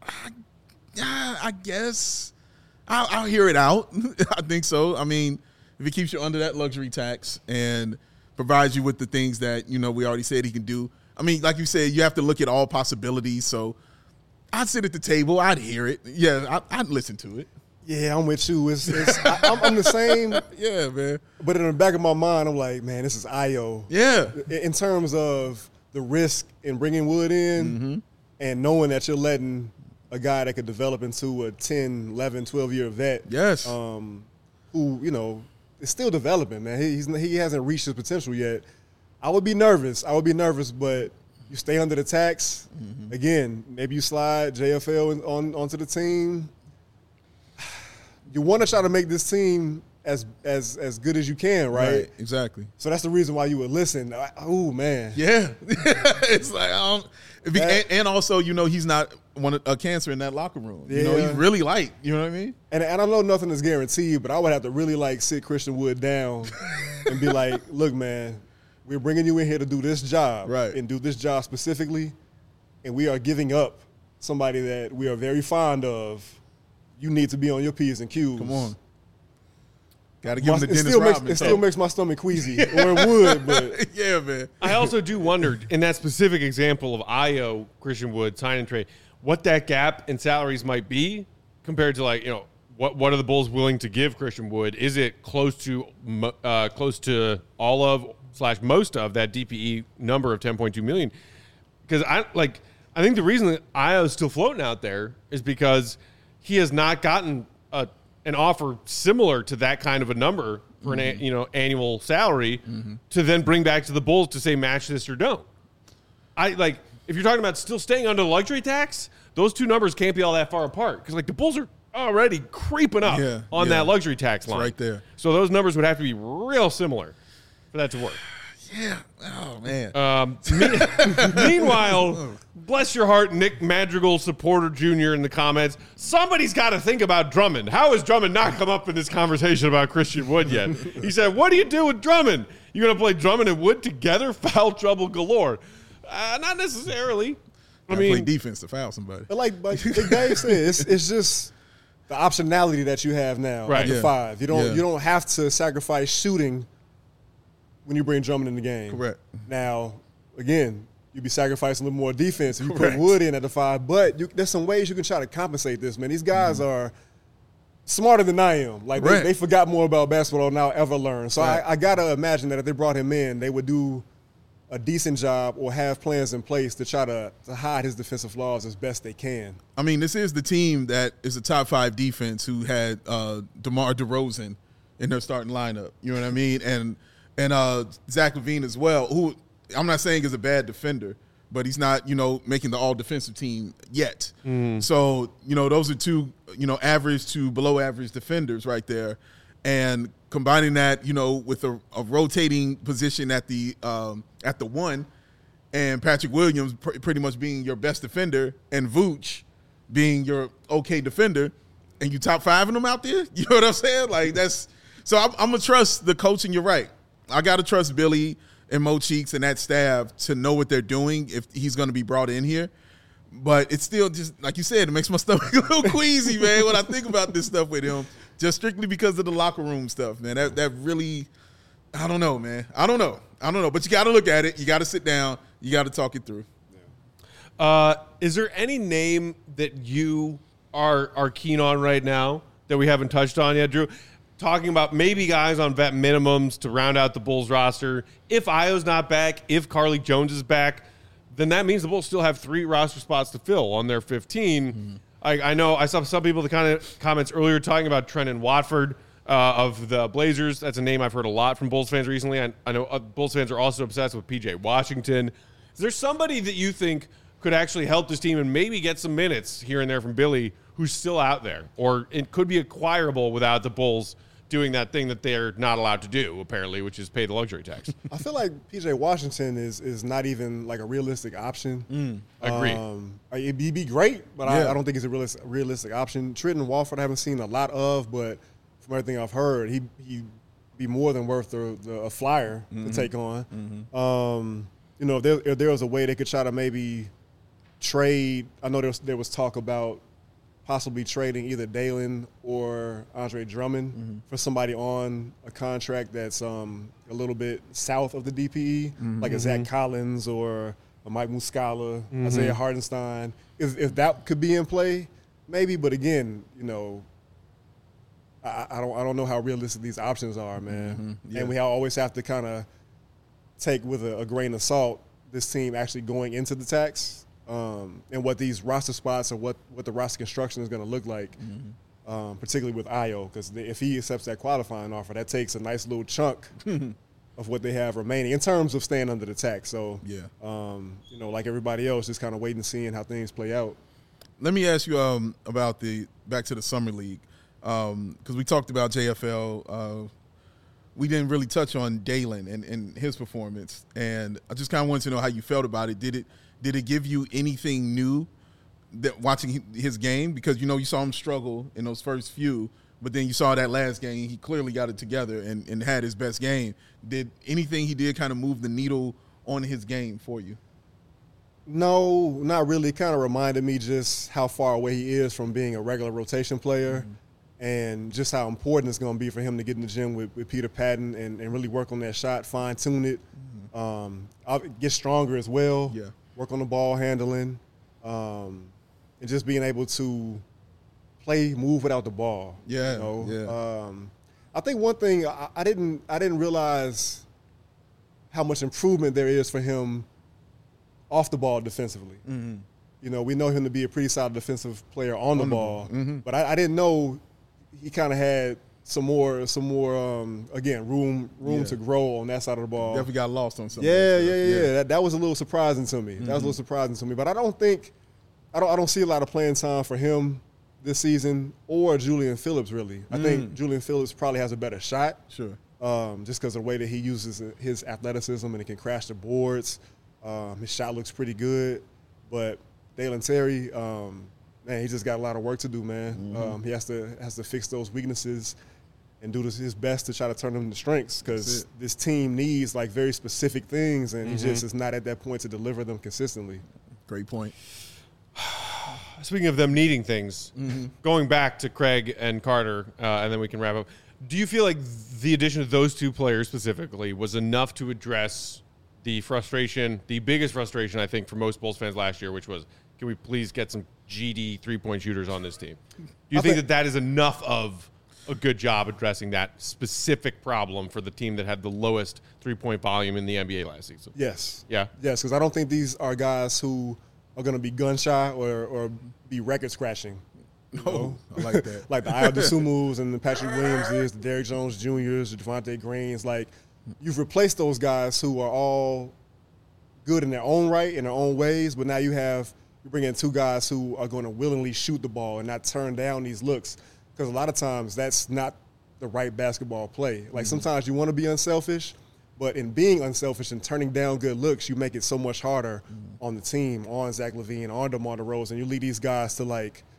I guess I'll hear it out. I think so. I mean, if it keeps you under that luxury tax and provides you with the things that, we already said he can do. I mean, like you said, you have to look at all possibilities. So I'd sit at the table. I'd hear it. Yeah, I'd listen to it. Yeah, I'm with you. I'm the same. Yeah, man. But in the back of my mind, I'm like, man, this is Ayo. Yeah. In terms of the risk in bringing Wood in and knowing that you're letting a guy that could develop into a 10, 11, 12-year vet. Yes. Who, is still developing, man. He hasn't reached his potential yet. I would be nervous, but you stay under the tax. Again, maybe you slide JFL onto the team. You want to try to make this team as good as you can, right? Exactly. So that's the reason why you would listen. Oh, man. Yeah. It's like, and also, he's not a cancer in that locker room. Yeah. He's really light. You know what I mean? And I know nothing is guaranteed, but I would have to really, sit Christian Wood down and be like, look, man, we're bringing you in here to do this job. Right. And do this job specifically, and we are giving up somebody that we are very fond of. You need to be on your P's and Q's. Come on. Got to give him the Dennis Rodman. It still makes my stomach queasy, or it would, but. Yeah, man. I also do wonder, in that specific example of Ayo, Christian Wood, sign and trade, what that gap in salaries might be compared to, what are the Bulls willing to give Christian Wood? Is it close to all of / most of that DPE number of $10.2 million? Because I think the reason that Ayo is still floating out there is because he has not gotten an offer similar to that kind of a number for an annual salary to then bring back to the Bulls to say match this or don't. If you're talking about still staying under the luxury tax, those two numbers can't be all that far apart because the Bulls are already creeping up on that luxury tax line. It's right there. So those numbers would have to be real similar for that to work. Yeah. Oh, man. Meanwhile, bless your heart, Nick Madrigal supporter Jr. in the comments. Somebody's got to think about Drummond. How has Drummond not come up in this conversation about Christian Wood yet? He said, what do you do with Drummond? You going to play Drummond and Wood together? Foul trouble galore. Not necessarily. Play defense to foul somebody. But like Big Dave said, it's just the optionality that you have now at the 5. You don't have to sacrifice shooting when you bring Drummond in the game. Correct. Now, again, you'd be sacrificing a little more defense if you put Wood in at the 5. But there's some ways you can try to compensate this, man. These guys are smarter than I am. They forgot more about basketball than I'll ever learn. So I got to imagine that if they brought him in, they would do a decent job or have plans in place to try to hide his defensive flaws as best they can. I mean, this is the team that is a top 5 defense who had DeMar DeRozan in their starting lineup. You know what I mean? And Zach LaVine as well, who I'm not saying is a bad defender, but he's not, making the all-defensive team yet. So, those are two, average to below-average defenders right there. And combining that, with a rotating position at the 1 and Patrick Williams pretty much being your best defender and Vooch being your okay defender, and you top 5 of them out there, you know what I'm saying? So I'm going to trust the coaching. You're right. I got to trust Billy and Mo Cheeks and that staff to know what they're doing if he's going to be brought in here. But it's still just, like you said, it makes my stomach a little queasy, man, when I think about this stuff with him, just strictly because of the locker room stuff, man. That really, I don't know, man. I don't know. But you got to look at it. You got to sit down. You got to talk it through. Is there any name that you are keen on right now that we haven't touched on yet, Drew? Talking about maybe guys on vet minimums to round out the Bulls roster. If Ayo's not back, if Carlik Jones is back, then that means the Bulls still have 3 roster spots to fill on their 15. I know I saw some people, the kind of comments earlier talking about Trendon Watford of the Blazers. That's a name I've heard a lot from Bulls fans recently. I know Bulls fans are also obsessed with P.J. Washington. Is there somebody that you think could actually help this team and maybe get some minutes here and there from Billy who's still out there? Or it could be acquirable without the Bulls doing that thing that they're not allowed to do, apparently, which is pay the luxury tax. I feel like P.J. Washington is not even like a realistic option. Agreed. It'd be great, but Yeah. I don't think it's a realistic option. Trenton Walford I haven't seen a lot of, but from everything I've heard, he'd be more than worth a flyer to take on. If there was a way they could try to maybe trade, I know there was talk about possibly trading either Dalen or Andre Drummond for somebody on a contract that's a little bit south of the DPE, like a Zach Collins or a Mike Muscala, Isaiah Hardenstein. If that could be in play, maybe. But again, I don't know how realistic these options are, man. Yeah. And we always have to kind of take with a grain of salt this team actually going into the tax. And what these roster spots or what the roster construction is going to look like, particularly with Ayo, because if he accepts that qualifying offer, that takes a nice little chunk of what they have remaining in terms of staying under the tax. So, like everybody else, just kind of waiting and seeing how things play out. Let me ask you about back to the summer league, because we talked about JFL. We didn't really touch on Dalen and his performance, and I just kind of wanted to know how you felt about it. Did it give you anything new that watching his game? Because, you saw him struggle in those first few, but then you saw that last game, he clearly got it together and had his best game. Did anything he did kind of move the needle on his game for you? No, not really. It kind of reminded me just how far away he is from being a regular rotation player and just how important it's going to be for him to get in the gym with Peter Patton and really work on that shot, fine-tune it, get stronger as well. Yeah. Work on the ball handling, and just being able to move without the ball. Yeah, I think one thing I didn't realize how much improvement there is for him off the ball defensively. We know him to be a pretty solid defensive player on the ball, but I didn't know he kind of had some more again room to grow on that side of the ball. Definitely got lost on something. Yeah. That was a little surprising to me. That was a little surprising to me. But I don't see a lot of playing time for him this season or Julian Phillips really. I think Julian Phillips probably has a better shot. Sure. Just because of the way that he uses his athleticism and he can crash the boards. His shot looks pretty good. But Dalen Terry, man, he just got a lot of work to do, man. He has to fix those weaknesses and do his best to try to turn them into strengths because this team needs like very specific things, and he just is not at that point to deliver them consistently. Great point. Speaking of them needing things, going back to Craig and Carter, and then we can wrap up. Do you feel like the addition of those two players specifically was enough to address the frustration, the biggest frustration I think for most Bulls fans last year, which was, can we please get some GD three-point shooters on this team? Do you think that is enough of a good job addressing that specific problem for the team that had the lowest three-point volume in the NBA last season? Yes. Yeah? Yes, because I don't think these are guys who are going to be gun-shy or be record-scratching. Oh, I like that. Like the Ayo Dosunmus and the Patrick Williamses, the Derrick Jones Jr.'s, the Devontae Greens. Like, you've replaced those guys who are all good in their own right, in their own ways, but now you bring in two guys who are going to willingly shoot the ball and not turn down these looks. Because a lot of times that's not the right basketball play. Like sometimes you want to be unselfish, but in being unselfish and turning down good looks, you make it so much harder on the team, on Zach LaVine, on DeMar DeRozan. You lead these guys to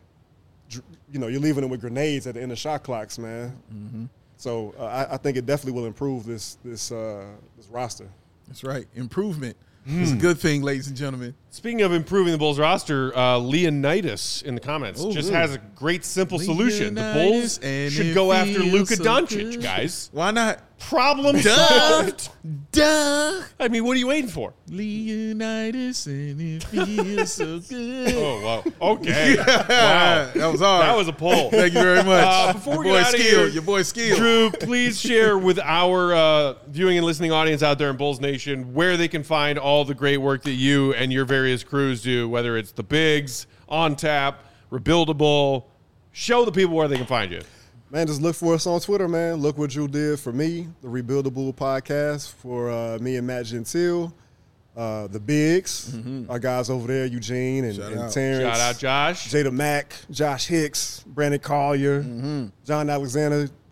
you're leaving them with grenades at the end of shot clocks, man. So I think it definitely will improve this roster. That's right. Improvement. It's a good thing, ladies and gentlemen. Speaking of improving the Bulls roster, Leonidas in the comments has a great, simple solution. The Bulls should go after Luka Doncic, guys. Why not? Problem solved. Duh. I mean, what are you waiting for? Leonidas, and it feels so good. Oh, wow. Okay. Wow. That was hard. That was a pull. Thank you very much. Before we get out of here, your boy Skill. Drew, please share with our viewing and listening audience out there in Bulls Nation where they can find all the great work that you and your various crews do, whether it's the Bigs, On Tap, Rebuildable. Show the people where they can find you. Man, just look for us on Twitter, man. Look what Drew did for me, the Rebuildable podcast for me and Matt Gentile, the Bigs, our guys over there, Eugene and Terrence. Shout out Josh. Jada Mack, Josh Hicks, Brandon Collier, John Alexander,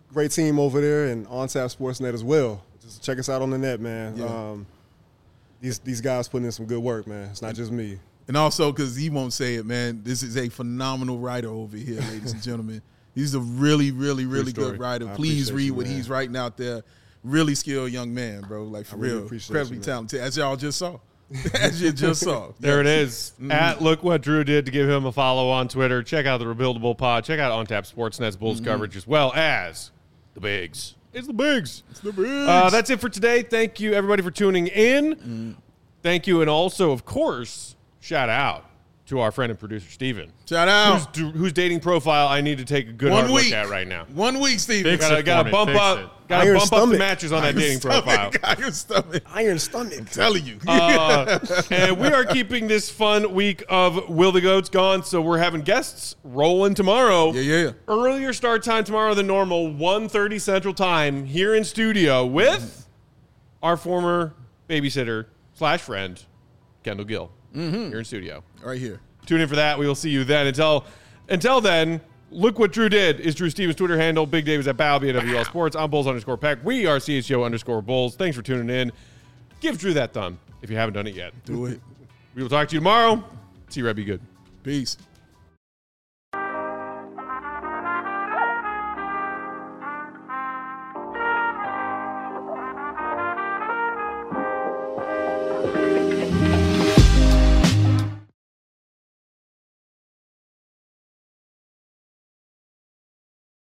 great team over there, and OnTap Sportsnet as well. Just check us out on the net, man. Yeah. These guys putting in some good work, man. It's not just me. And also, because he won't say it, man, this is a phenomenal writer over here, ladies and gentlemen. He's a really, really, really good writer. Please read what he's writing out there. Really skilled young man, bro. Like, for real. Incredibly talented, as y'all just saw. As you just saw. There it is. At Look What Drew Did to give him a follow on Twitter. Check out the Rebuildable Pod. Check out OnTap Sportsnet's Bulls coverage as well as the Bigs. It's the Bigs. It's the Bigs. That's it for today. Thank you, everybody, for tuning in. Thank you. And also, of course, shout out to our friend and producer, Steven. Shout out. Whose dating profile I need to take a good hard look at right now. 1 week, Steven. Got to bump up. Got to bump up the matches on that dating profile. Iron stomach. Iron stomach. I'm telling you. And we are keeping this fun week of Will the Goats gone, so we're having guests rolling tomorrow. Yeah. Earlier start time tomorrow than normal, 1:30 Central Time here in studio with our former babysitter / friend, Kendall Gill, here in studio. Right here. Tune in for that. We will see you then. Until then, Look What Drew Did is Drew Stevens' Twitter handle. Big Dave is at Bow, BWL Sports. I'm Bulls_Peck. We are CHGO_Bulls. Thanks for tuning in. Give Drew that thumb if you haven't done it yet. Do it. We will talk to you tomorrow. See you, Red. Be good. Peace.